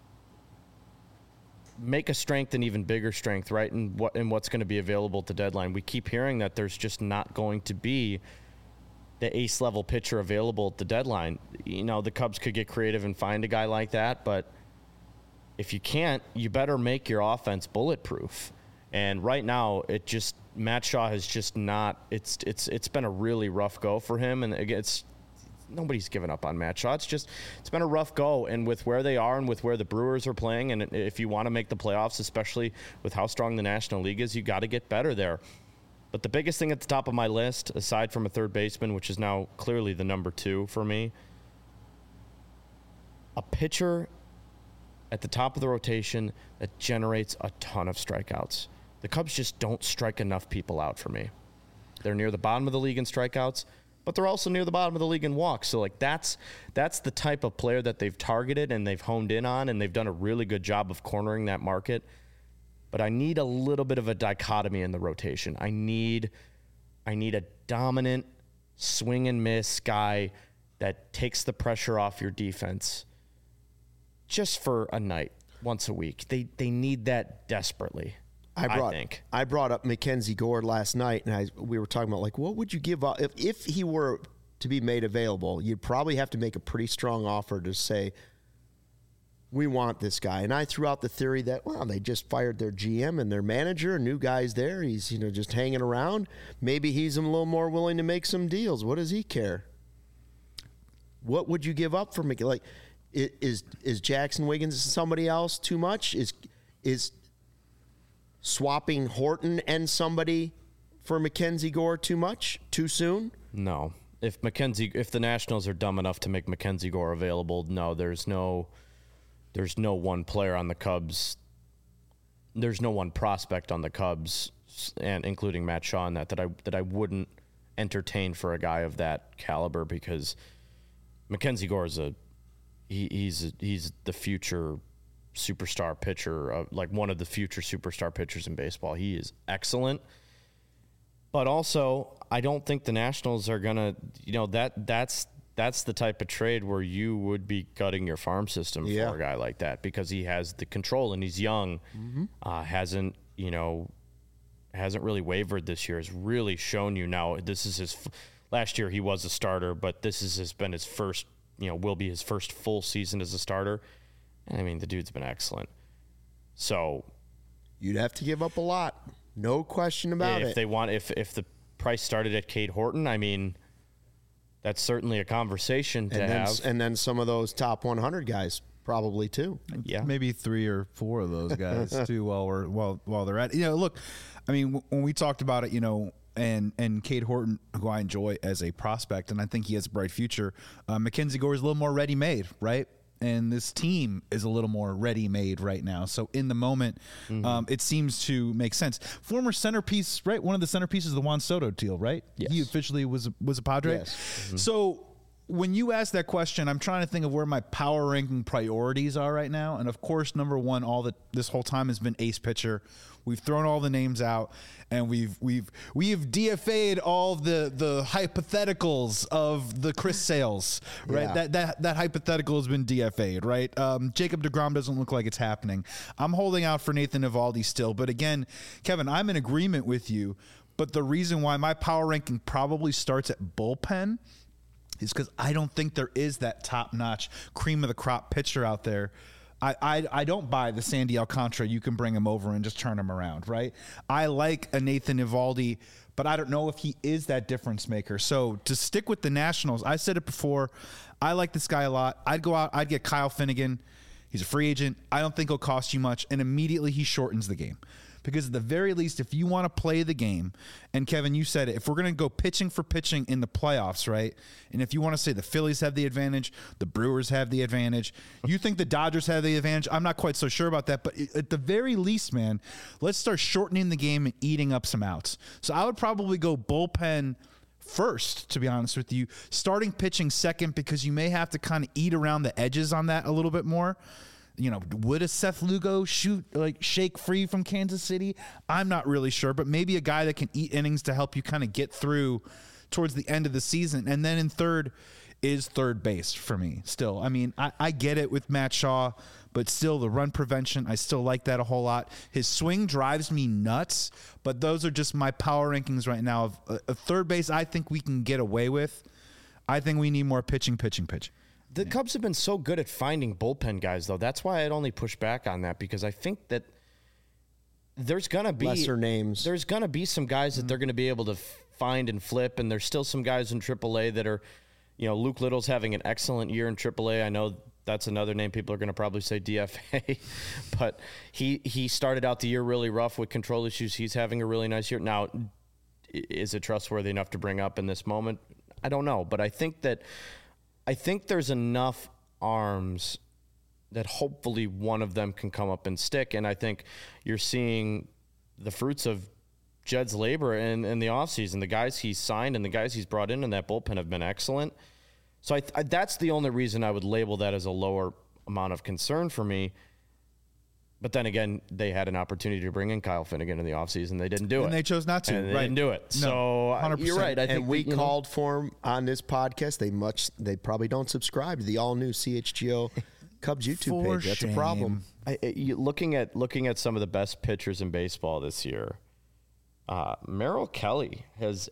make a strength an even bigger strength, right? And what's going to be available at the deadline. We keep hearing that there's just not going to be the ace level pitcher available at the deadline. The Cubs could get creative and find a guy like that, but if you can't, you better make your offense bulletproof. And right now, Matt Shaw has just not. It's been a really rough go for him, and nobody's given up on Matt Shaw. It's been a rough go, and with where they are and with where the Brewers are playing, and if you want to make the playoffs, especially with how strong the National League is, you got to get better there. But the biggest thing at the top of my list, aside from a third baseman, which is now clearly the number 2 for me, a pitcher at the top of the rotation that generates a ton of strikeouts. The Cubs just don't strike enough people out for me. They're near the bottom of the league in strikeouts, but they're also near the bottom of the league in walks. So, that's the type of player that they've targeted and they've honed in on, and they've done a really good job of cornering that market. But I need a little bit of a dichotomy in the rotation. I need a dominant swing and miss guy that takes the pressure off your defense just for a night, once a week. They need that desperately. I brought up Mackenzie Gore last night, and we were talking about, what would you give up if he were to be made available? You'd probably have to make a pretty strong offer to say, we want this guy. And I threw out the theory that, they just fired their GM and their manager, new guy's there. He's, just hanging around. Maybe he's a little more willing to make some deals. What does he care? What would you give up for Mickey? Is Jackson Wiggins somebody else too much? Is swapping Horton and somebody for Mackenzie Gore too much? Too soon? No. If the Nationals are dumb enough to make Mackenzie Gore available, no, there's no one player on the Cubs. There's no one prospect on the Cubs, and including Matt Shaw, in that I wouldn't entertain for a guy of that caliber, because Mackenzie Gore is he's the future superstar pitcher, one of the future superstar pitchers in baseball. He is excellent, but also I don't think the Nationals are gonna. That's the type of trade where you would be gutting your farm system for a guy like that, because he has the control and he's young. Hasn't really wavered this year. Has really shown you now. This is his last year. He was a starter, but this has been his first. Will be his first full season as a starter. And I mean, the dude's been excellent. So you'd have to give up a lot, no question about it. If the price started at Cade Horton, I mean, that's certainly a conversation to have. And then some of those top 100 guys probably too. Yeah, maybe 3 or 4 of those guys too. While they're at look, I mean, when we talked about it, and Cade Horton, who I enjoy as a prospect, and I think he has a bright future. Mackenzie Gore is a little more ready-made, right? And this team is a little more ready-made right now. So in the moment, it seems to make sense. Former centerpiece, right? One of the centerpieces of the Juan Soto deal, right? Yes. He officially was a Padre. Yes. So when you ask that question, I'm trying to think of where my power ranking priorities are right now. And of course, number one, this whole time has been ace pitcher. We've thrown all the names out, and we've DFA'd all the hypotheticals of the Chris Sales, right? Yeah. That hypothetical has been DFA'd, right? Jacob deGrom doesn't look like it's happening. I'm holding out for Nathan Eovaldi still, but again, Kevin, I'm in agreement with you. But the reason why my power ranking probably starts at bullpen is because I don't think there is that top-notch cream of the crop pitcher out there. I don't buy the Sandy Alcantara. You can bring him over and just turn him around, right? I like a Nathan Eovaldi, but I don't know if he is that difference maker. So to stick with the Nationals, I said it before, I like this guy a lot. I'd go out, I'd get Kyle Finnegan. He's a free agent. I don't think he'll cost you much, and immediately he shortens the game. Because at the very least, if you want to play the game, and Kevin, you said it, if we're going to go pitching for pitching in the playoffs, right? And if you want to say the Phillies have the advantage, the Brewers have the advantage, you think the Dodgers have the advantage, I'm not quite so sure about that. But at the very least, man, let's start shortening the game and eating up some outs. So I would probably go bullpen first, to be honest with you, starting pitching second, because you may have to kind of eat around the edges on that a little bit more. You know, would a Seth Lugo shake free from Kansas City? I'm not really sure, but maybe a guy that can eat innings to help you kind of get through towards the end of the season. And then in third is third base for me still. I mean, I get it with Matt Shaw, but still the run prevention, I still like that a whole lot. His swing drives me nuts, but those are just my power rankings right now. Of third base, I think we can get away with. I think we need more pitching. The Cubs have been so good at finding bullpen guys, though. That's why I'd only push back on that, because I think that there's going to be lesser names. There's going to be some guys that they're going to be able to find and flip, and there's still some guys in AAA that are, you know, Luke Little's having an excellent year in AAA. I know that's another name people are going to probably say DFA, but he started out the year really rough with control issues. He's having a really nice year. Now, is it trustworthy enough to bring up in this moment? I don't know, but I think there's enough arms that hopefully one of them can come up and stick. And I think you're seeing the fruits of Jed's labor in the offseason. The guys he's signed and the guys he's brought in that bullpen have been excellent. So that's the only reason I would label that as a lower amount of concern for me. But then again, they had an opportunity to bring in Kyle Finnegan in the offseason. They didn't do it. And they chose not to. And they right. didn't do it. No, so 100%. You're right. I think we called for him on this podcast. They probably don't subscribe to the all-new CHGO Cubs YouTube page. That's a problem. Looking at some of the best pitchers in baseball this year, Merrill Kelly has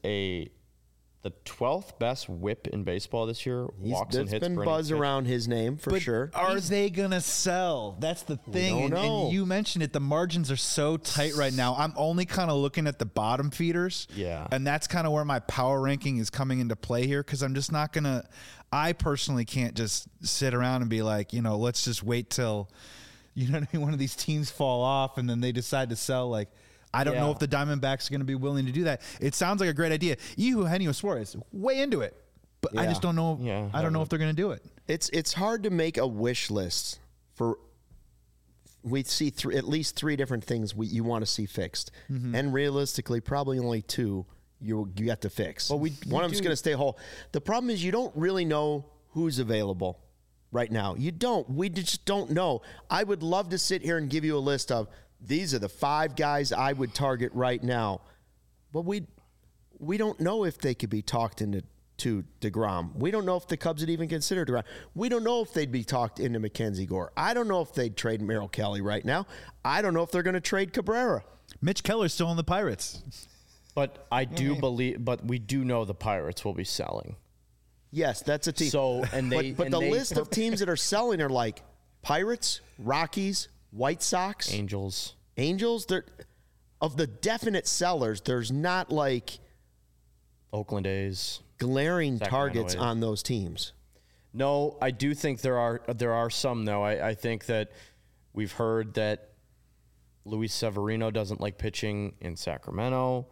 the 12th best whip in baseball this year. Walks and hits. There's been buzz around his name for sure. Are they going to sell? That's the thing. And you mentioned it. The margins are so tight right now. I'm only kind of looking at the bottom feeders. Yeah. And that's kind of where my power ranking is coming into play here, because I'm just not going to – I personally can't just sit around and be like, you know, let's just wait till, you know what I mean, one of these teams fall off and then they decide to sell. Like, I don't know if the Diamondbacks are going to be willing to do that. It sounds like a great idea. Eugenio Suarez, way into it, but I just don't know. Yeah, I don't know if they're going to do it. It's hard to make a wish list for. We see at least three different things you want to see fixed, and realistically, probably only two you got to fix. Well, one of them's going to stay whole. The problem is you don't really know who's available right now. You don't. We just don't know. I would love to sit here and give you a list of. These are the 5 guys I would target right now. But we don't know if they could be talked into DeGrom. We don't know if the Cubs would even consider DeGrom. We don't know if they'd be talked into Mackenzie Gore. I don't know if they'd trade Merrill Kelly right now. I don't know if they're going to trade Cabrera. Mitch Keller's still on the Pirates. But I do believe, but we do know the Pirates will be selling. Yes, that's a team. So, but the list of teams that are selling are like Pirates, Rockies, White Sox, Angels. They're of the definite sellers. There's not like Oakland A's, glaring Sacramento targets A's. on those teams. No, I do think there are some though. I think that we've heard that Luis Severino doesn't like pitching in Sacramento.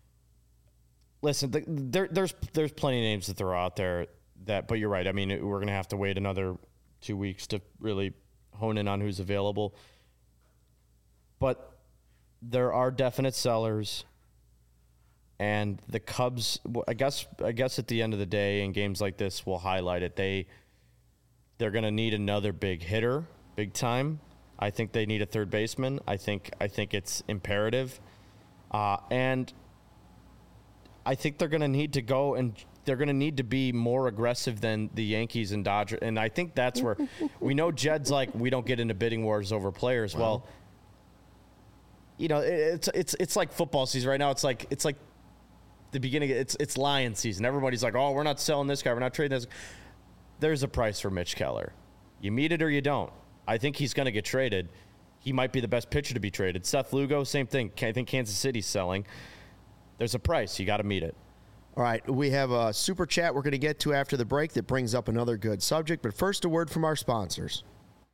Listen, there's plenty of names that throw out there but you're right. I mean, we're gonna have to wait another 2 weeks to really hone in on who's available. But there are definite sellers, And the Cubs, I guess at the end of the day, in games like this, we'll highlight it. They're going to need another big hitter, big time. I think they need a third baseman. I think it's imperative, and I think they're going to need to go and they're going to need to be more aggressive than the Yankees and Dodgers. And I think that's where we know Jed's like, we don't get into bidding wars over players. Well, you know, it's like football season right now. It's like the beginning. It's Lion season. Everybody's like, oh, we're not selling this guy. We're not trading this. There's a price for Mitch Keller. You meet it or you don't. I think he's going to get traded. He might be the best pitcher to be traded. Seth Lugo, same thing. I think Kansas City's selling. There's a price. You got to meet it. All right, we have a super chat we're going to get to after the break that brings up another good subject. But first, a word from our sponsors.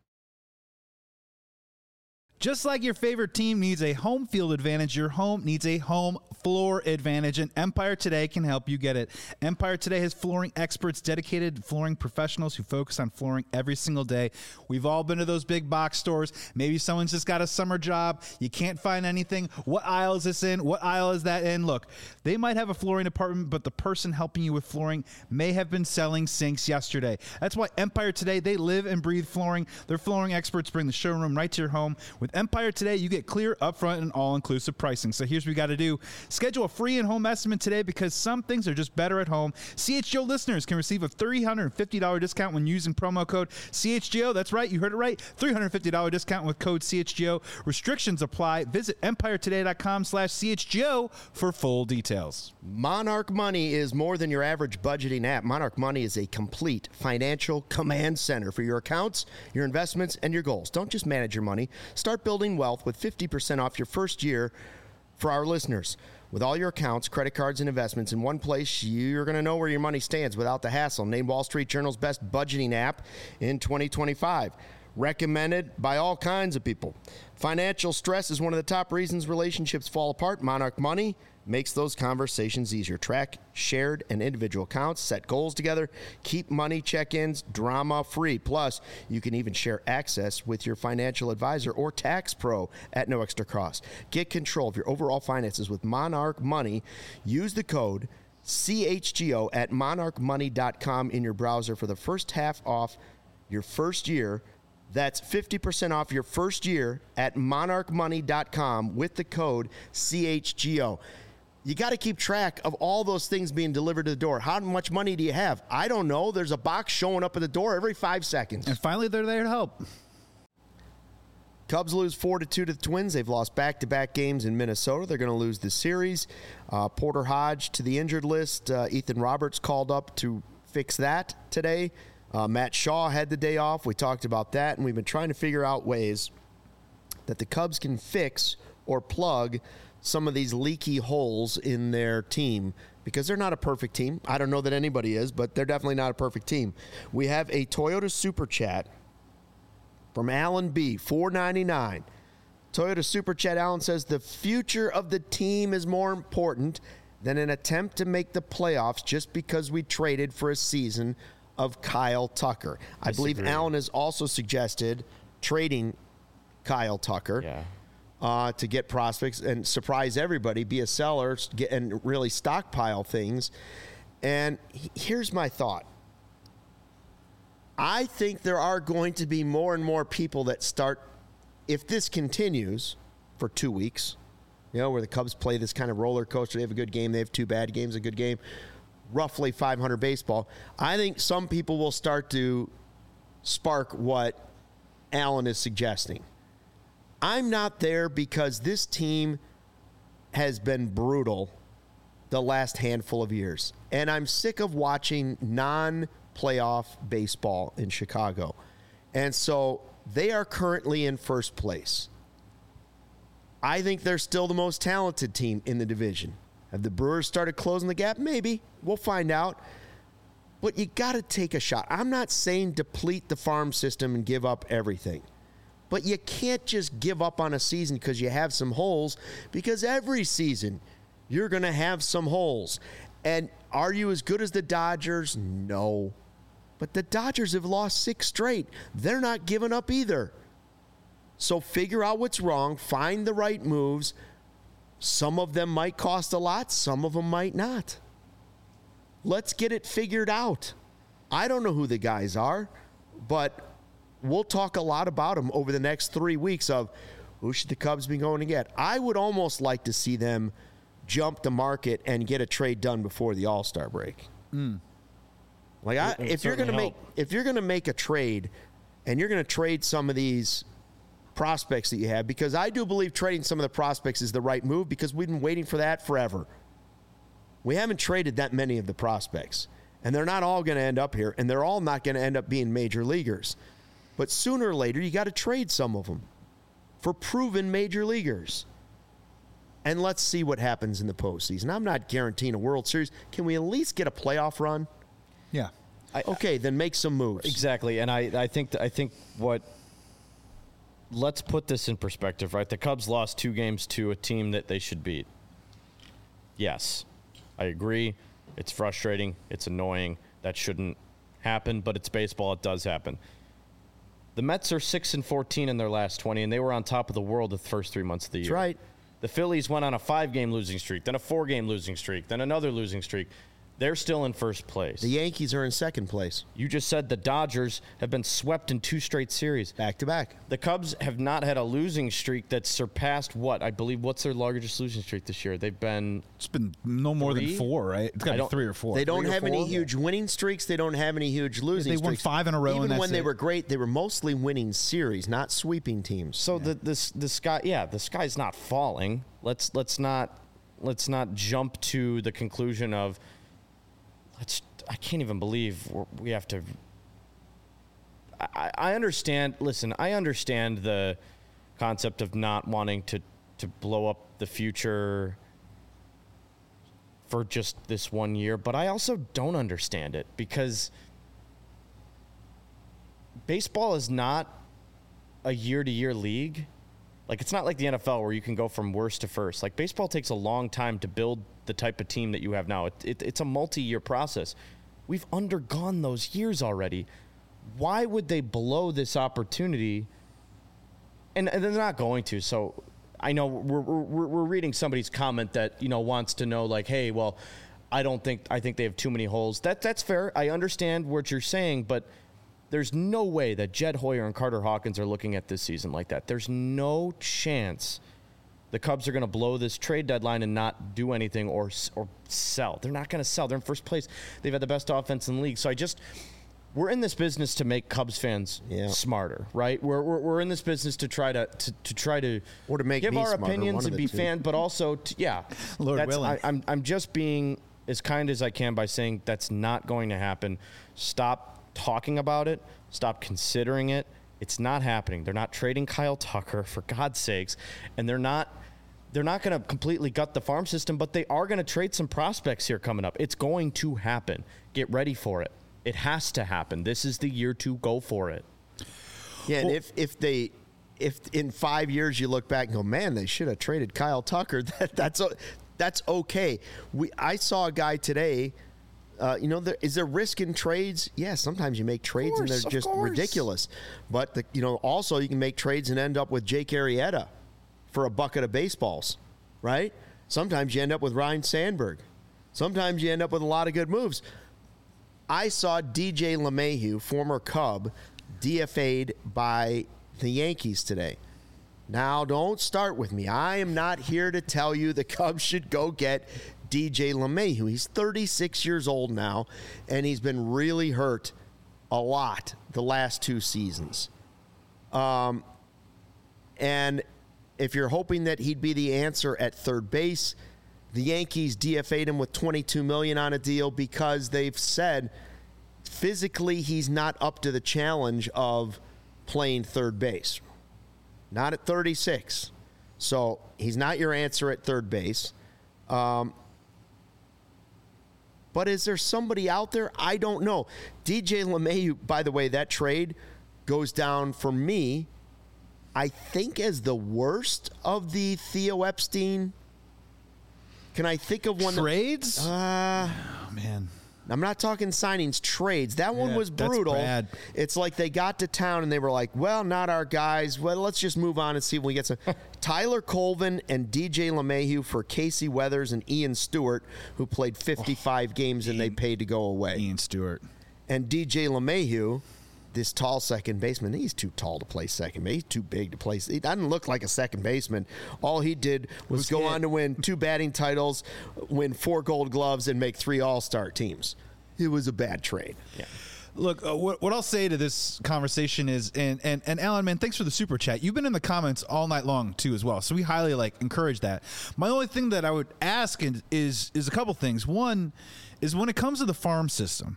Just like your favorite team needs a home field advantage, your home needs a home floor advantage, and Empire Today can help you get it. Empire Today has flooring experts, dedicated flooring professionals who focus on flooring every single day. We've all been to those big box stores. Maybe someone's just got a summer job. You can't find anything. What aisle is this in? What aisle is that in? Look, they might have a flooring department, but the person helping you with flooring may have been selling sinks yesterday. That's why Empire Today, they live and breathe flooring. Their flooring experts bring the showroom right to your home. With Empire Today, you get clear, upfront, and all-inclusive pricing. So here's what you got to do. Schedule a free in-home estimate today because some things are just better at home. CHGO listeners can receive a $350 discount when using promo code CHGO. That's right. You heard it right. $350 discount with code CHGO. Restrictions apply. Visit EmpireToday.com/CHGO for full details. Monarch Money is more than your average budgeting app. Monarch Money is a complete financial command center for your accounts, your investments, and your goals. Don't just manage your money. Start building wealth with 50% off your first year for our listeners. With all your accounts, credit cards, and investments in one place, you're going to know where your money stands without the hassle. Named Wall Street Journal's best budgeting app in 2025. Recommended by all kinds of people. Financial stress is one of the top reasons relationships fall apart. Monarch Money makes those conversations easier. Track shared and individual accounts, set goals together, keep money check-ins drama-free. Plus, you can even share access with your financial advisor or tax pro at no extra cost. Get control of your overall finances with Monarch Money. Use the code CHGO at monarchmoney.com in your browser for the first half off your first year. That's 50% off your first year at monarchmoney.com with the code CHGO. You got to keep track of all those things being delivered to the door. How much money do you have? I don't know. There's a box showing up at the door every 5 seconds. And finally, they're there to help. Cubs lose 4-2 to the Twins. They've lost back-to-back games in Minnesota. They're going to lose the series. Porter Hodge to the injured list. Ethan Roberts called up to fix that today. Matt Shaw had the day off. We talked about that, and we've been trying to figure out ways that the Cubs can fix or plug some of these leaky holes in their team because they're not a perfect team. I don't know that anybody is, but they're definitely not a perfect team. We have a Toyota Super Chat from Alan B., $4.99. Toyota Super Chat, Alan says, the future of the team is more important than an attempt to make the playoffs just because we traded for a season of Kyle Tucker. I believe Alan has also suggested trading Kyle Tucker to get prospects and surprise everybody, be a seller, and really stockpile things. And here's my thought. I think there are going to be more and more people that start, if this continues for 2 weeks, you know, where the Cubs play this kind of roller coaster. They have a good game. They have 2 bad games, a good game. Roughly 500 baseball. I think some people will start to spark what Alan is suggesting. I'm not there because this team has been brutal the last handful of years. And I'm sick of watching non-playoff baseball in Chicago. And so they are currently in first place. I think they're still the most talented team in the division. Have the Brewers started closing the gap? Maybe. We'll find out. But you got to take a shot. I'm not saying deplete the farm system and give up everything. But you can't just give up on a season because you have some holes, because every season you're going to have some holes. And are you as good as the Dodgers? No. But the Dodgers have lost 6 straight. They're not giving up either. So figure out what's wrong, find the right moves, Some of them might cost a lot. Some of them might not. Let's get it figured out. I don't know who the guys are, but we'll talk a lot about them over the next 3 weeks of who should the Cubs be going to get. I would almost like to see them jump the market and get a trade done before the All-Star break. Like, if you're going to make a trade and you're going to trade some of these prospects that you have, because I do believe trading some of the prospects is the right move, because we've been waiting for that forever. We haven't traded that many of the prospects, and they're not all going to end up here, and they're all not going to end up being major leaguers. But sooner or later, you got to trade some of them for proven major leaguers. And let's see what happens in the postseason. I'm not guaranteeing a World Series. Can we at least get a playoff run? Yeah. Okay, then make some moves. Exactly, and I think what. Let's put this in perspective, right? The Cubs lost 2 games to a team that they should beat. Yes, I agree. It's frustrating. It's annoying. That shouldn't happen, but it's baseball. It does happen. The Mets are 6-14 in their last 20, and they were on top of the world the first 3 months of the year. That's right. The Phillies went on a 5-game losing streak, then a 4-game losing streak, then another losing streak. They're still in first place. The Yankees are in second place. You just said the Dodgers have been swept in 2 straight series. Back to back. The Cubs have not had a losing streak that surpassed what? I believe, what's their largest losing streak this year? They've been... It's been no more 3? than 4, right? It's got to be 3 or 4. They don't 3 or have any 4? huge winning streaks. They don't have any huge losing They streaks. won 5 in a row, Even and that's when they it. were great, they were mostly winning series, not sweeping teams. So the sky, the sky's not falling. Let's not jump to the conclusion of I can't even believe we have to. I understand. Listen, I understand the concept of not wanting to blow up the future for just this 1 year, but I also don't understand it, because baseball is not a year-to-year league. Like, it's not like the NFL where you can go from worst to first. Like, baseball takes a long time to build the type of team that you have now. It's a multi-year process. We've undergone those years already. Why would they blow this opportunity? And they're not going to. So I know we're reading somebody's comment that, wants to know, like, hey, well, I think they have too many holes. That's fair. I understand what you're saying, but there's no way that Jed Hoyer and Carter Hawkins are looking at this season like that. There's no chance the Cubs are going to blow this trade deadline and not do anything or sell. They're not going to sell. They're in first place. They've had the best offense in the league. So we're in this business to make Cubs fans smarter, right? We're in this business to try to or to make give me our smarter, opinions and be fans, but also Lord willing. I'm just being as kind as I can by saying that's not going to happen. Stop talking about it. Stop considering it. It's not happening. They're not trading Kyle Tucker, for God's sakes, and they're not going to completely gut the farm system, but they are going to trade some prospects here coming up. It's going to happen. Get ready for it. It has to happen. This is the year to go for it. Yeah, and if in 5 years you look back and go, man, they should have traded Kyle Tucker, that's okay. I saw a guy today. Is there risk in trades? Yeah, sometimes you make trades and they're just ridiculous. But also you can make trades and end up with Jake Arrieta for a bucket of baseballs, right? Sometimes you end up with Ryan Sandberg. Sometimes you end up with a lot of good moves. I saw DJ LeMahieu, former Cub, DFA'd by the Yankees today. Now, don't start with me. I am not here to tell you the Cubs should go get DJ LeMahieu. He's 36 years old now, and he's been really hurt a lot the last 2 seasons. And if you're hoping that he'd be the answer at third base, the Yankees DFA'd him with $22 million on a deal because they've said physically he's not up to the challenge of playing third base. Not at 36. So he's not your answer at third base. But is there somebody out there? I don't know. DJ LeMahieu, by the way, that trade goes down for me, I think, as the worst of the Theo Epstein. Can I think of one? Trades? Oh, man. I'm not talking signings, trades. That one was brutal. That's bad. It's like they got to town and they were like, well, not our guys. Well, let's just move on and see if we get some. Tyler Colvin and DJ LeMahieu for Casey Weathers and Ian Stewart, who played 55 games and they paid to go away. Ian Stewart. And DJ LeMahieu, this tall second baseman, he's too tall to play second base. He's too big to play. He doesn't look like a second baseman. All he did was go on to win 2 batting titles, win 4 Gold Gloves, and make 3 All-Star teams. It was a bad trade. Yeah. Look, what I'll say to this conversation is, and Alan, man, thanks for the super chat. You've been in the comments all night long too, as well. So we highly encourage that. My only thing that I would ask is a couple things. One is when it comes to the farm system,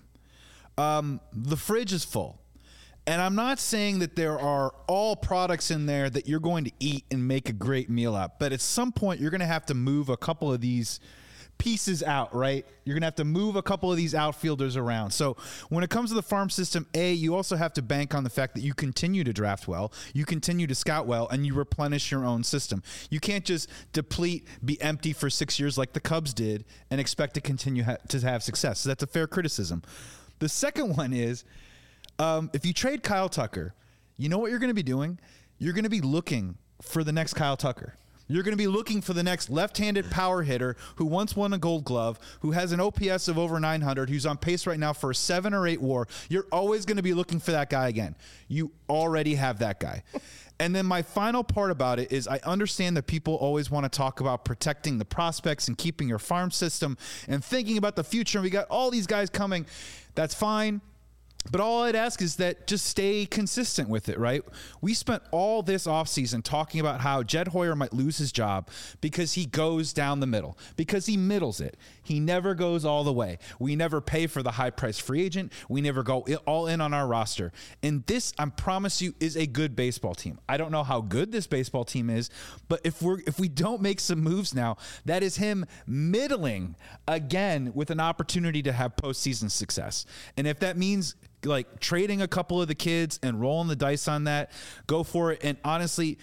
the fridge is full. And I'm not saying that there are all products in there that you're going to eat and make a great meal out, but at some point you're going to have to move a couple of these pieces out, right? You're going to have to move a couple of these outfielders around. So when it comes to the farm system, you also have to bank on the fact that you continue to draft well, you continue to scout well, and you replenish your own system. You can't just deplete, be empty for 6 years like the Cubs did and expect to continue to have success. So that's a fair criticism. The second one is, if you trade Kyle Tucker, you know what you're going to be doing? You're going to be looking for the next Kyle Tucker. You're going to be looking for the next left-handed power hitter who once won a Gold Glove, who has an OPS of over 900, who's on pace right now for a 7 or 8 WAR. You're always going to be looking for that guy again. You already have that guy. And then my final part about it is I understand that people always want to talk about protecting the prospects and keeping your farm system and thinking about the future. And we got all these guys coming. That's fine. But all I'd ask is that just stay consistent with it, right? We spent all this offseason talking about how Jed Hoyer might lose his job because he goes down the middle, because he middles it. He never goes all the way. We never pay for the high-priced free agent. We never go all in on our roster. And this, I promise you, is a good baseball team. I don't know how good this baseball team is, but if we don't make some moves now, that is him middling again with an opportunity to have postseason success. And if that means like trading a couple of the kids and rolling the dice on that, go for it. And honestly,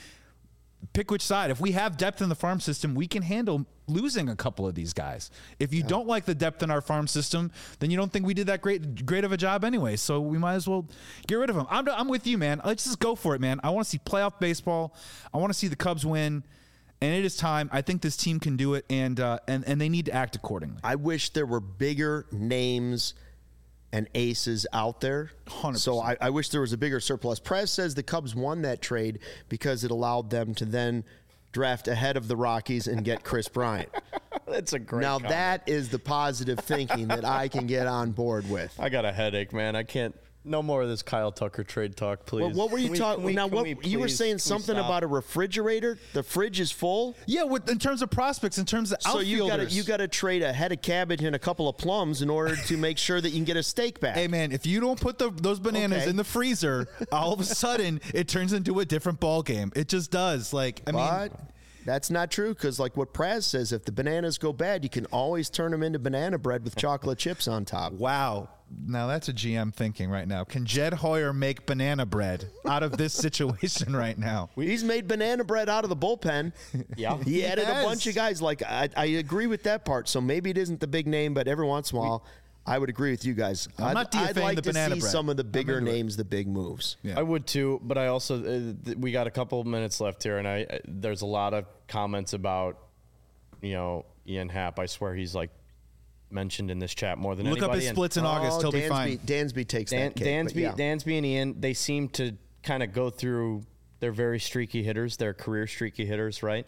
pick which side. If we have depth in the farm system, we can handle losing a couple of these guys. If you don't like the depth in our farm system, then you don't think we did that great of a job anyway. So we might as well get rid of them. I'm with you, man. Let's just go for it, man. I want to see playoff baseball. I want to see the Cubs win. And it is time. I think this team can do it, and they need to act accordingly. I wish there were bigger names and aces out there. 100%. So I wish there was a bigger surplus. Prez says the Cubs won that trade because it allowed them to then draft ahead of the Rockies and get Chris Bryant. That's a great Now comment. that is the positive thinking that I can get on board with. I got a headache, man. I can't. No more of this Kyle Tucker trade talk, please. What were you talking? Now, you were saying something about a refrigerator. The fridge is full. Yeah, in terms of prospects, in terms of So outfielders. you got to trade a head of cabbage and a couple of plums in order to make sure that you can get a steak back. Hey, man, if you don't put those bananas Okay. in the freezer, all of a sudden it turns into a different ball game. It just does. But that's not true because, like what Praz says, if the bananas go bad, you can always turn them into banana bread with chocolate chips on top. wow. Now that's a GM thinking right now. Can Jed Hoyer make banana bread out of this situation right now? He's made banana bread out of the bullpen. Yeah. He added has. a bunch of guys. Like I agree with that part. So maybe it isn't the big name, but every once in a while, I would agree with you guys. I'm not I'd DFAing like the to banana see bread. some of the I'm bigger into it. names, the big moves. Yeah. I would too, but I also we got a couple of minutes left here, and there's a lot of comments about Ian Happ. I swear he's like mentioned in this chat more than Look anybody. up his splits in August. He'll be fine. Dansby takes that cake. but yeah. Dansby and Ian, they seem to kind of go through. They're very streaky hitters. They're career streaky hitters, right?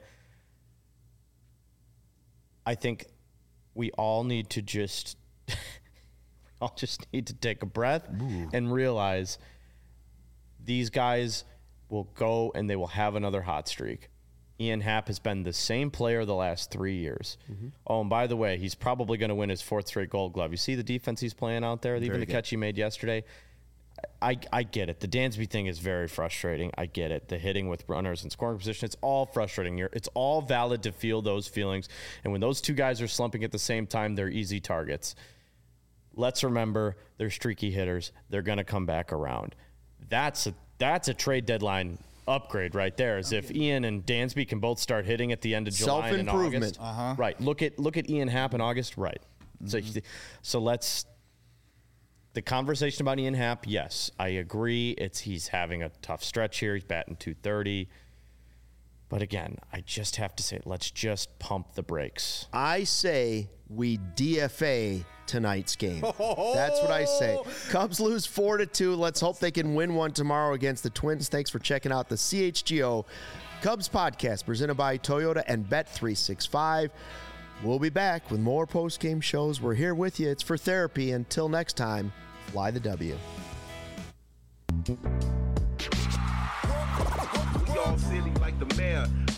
I think we all need to just need to take a breath and realize these guys will go and they will have another hot streak. Ian Happ has been the same player the last 3 years. Mm-hmm. Oh, and by the way, he's probably going to win his 4th straight Gold Glove. You see the defense he's playing out there, even the catch he made yesterday. I get it. The Dansby thing is very frustrating. I get it. The hitting with runners in scoring position, it's all frustrating. It's all valid to feel those feelings. And when those two guys are slumping at the same time, they're easy targets. Let's remember they're streaky hitters. They're going to come back around. That's a trade deadline upgrade right there. As if Ian and Dansby can both start hitting at the end of July and in August. Right. Look at Ian Happ in August. Right. So let's. The conversation about Ian Happ, yes, I agree. He's having a tough stretch here. He's batting .230. But again, I just have to say, let's just pump the brakes. I say we DFA tonight's game. That's what I say. Cubs lose 4-2. Let's hope they can win one tomorrow against the Twins. Thanks for checking out the CHGO Cubs podcast presented by Toyota and Bet365. We'll be back with more post-game shows. We're here with you. It's for therapy. Until next time, fly the W. We all silly like the mayor.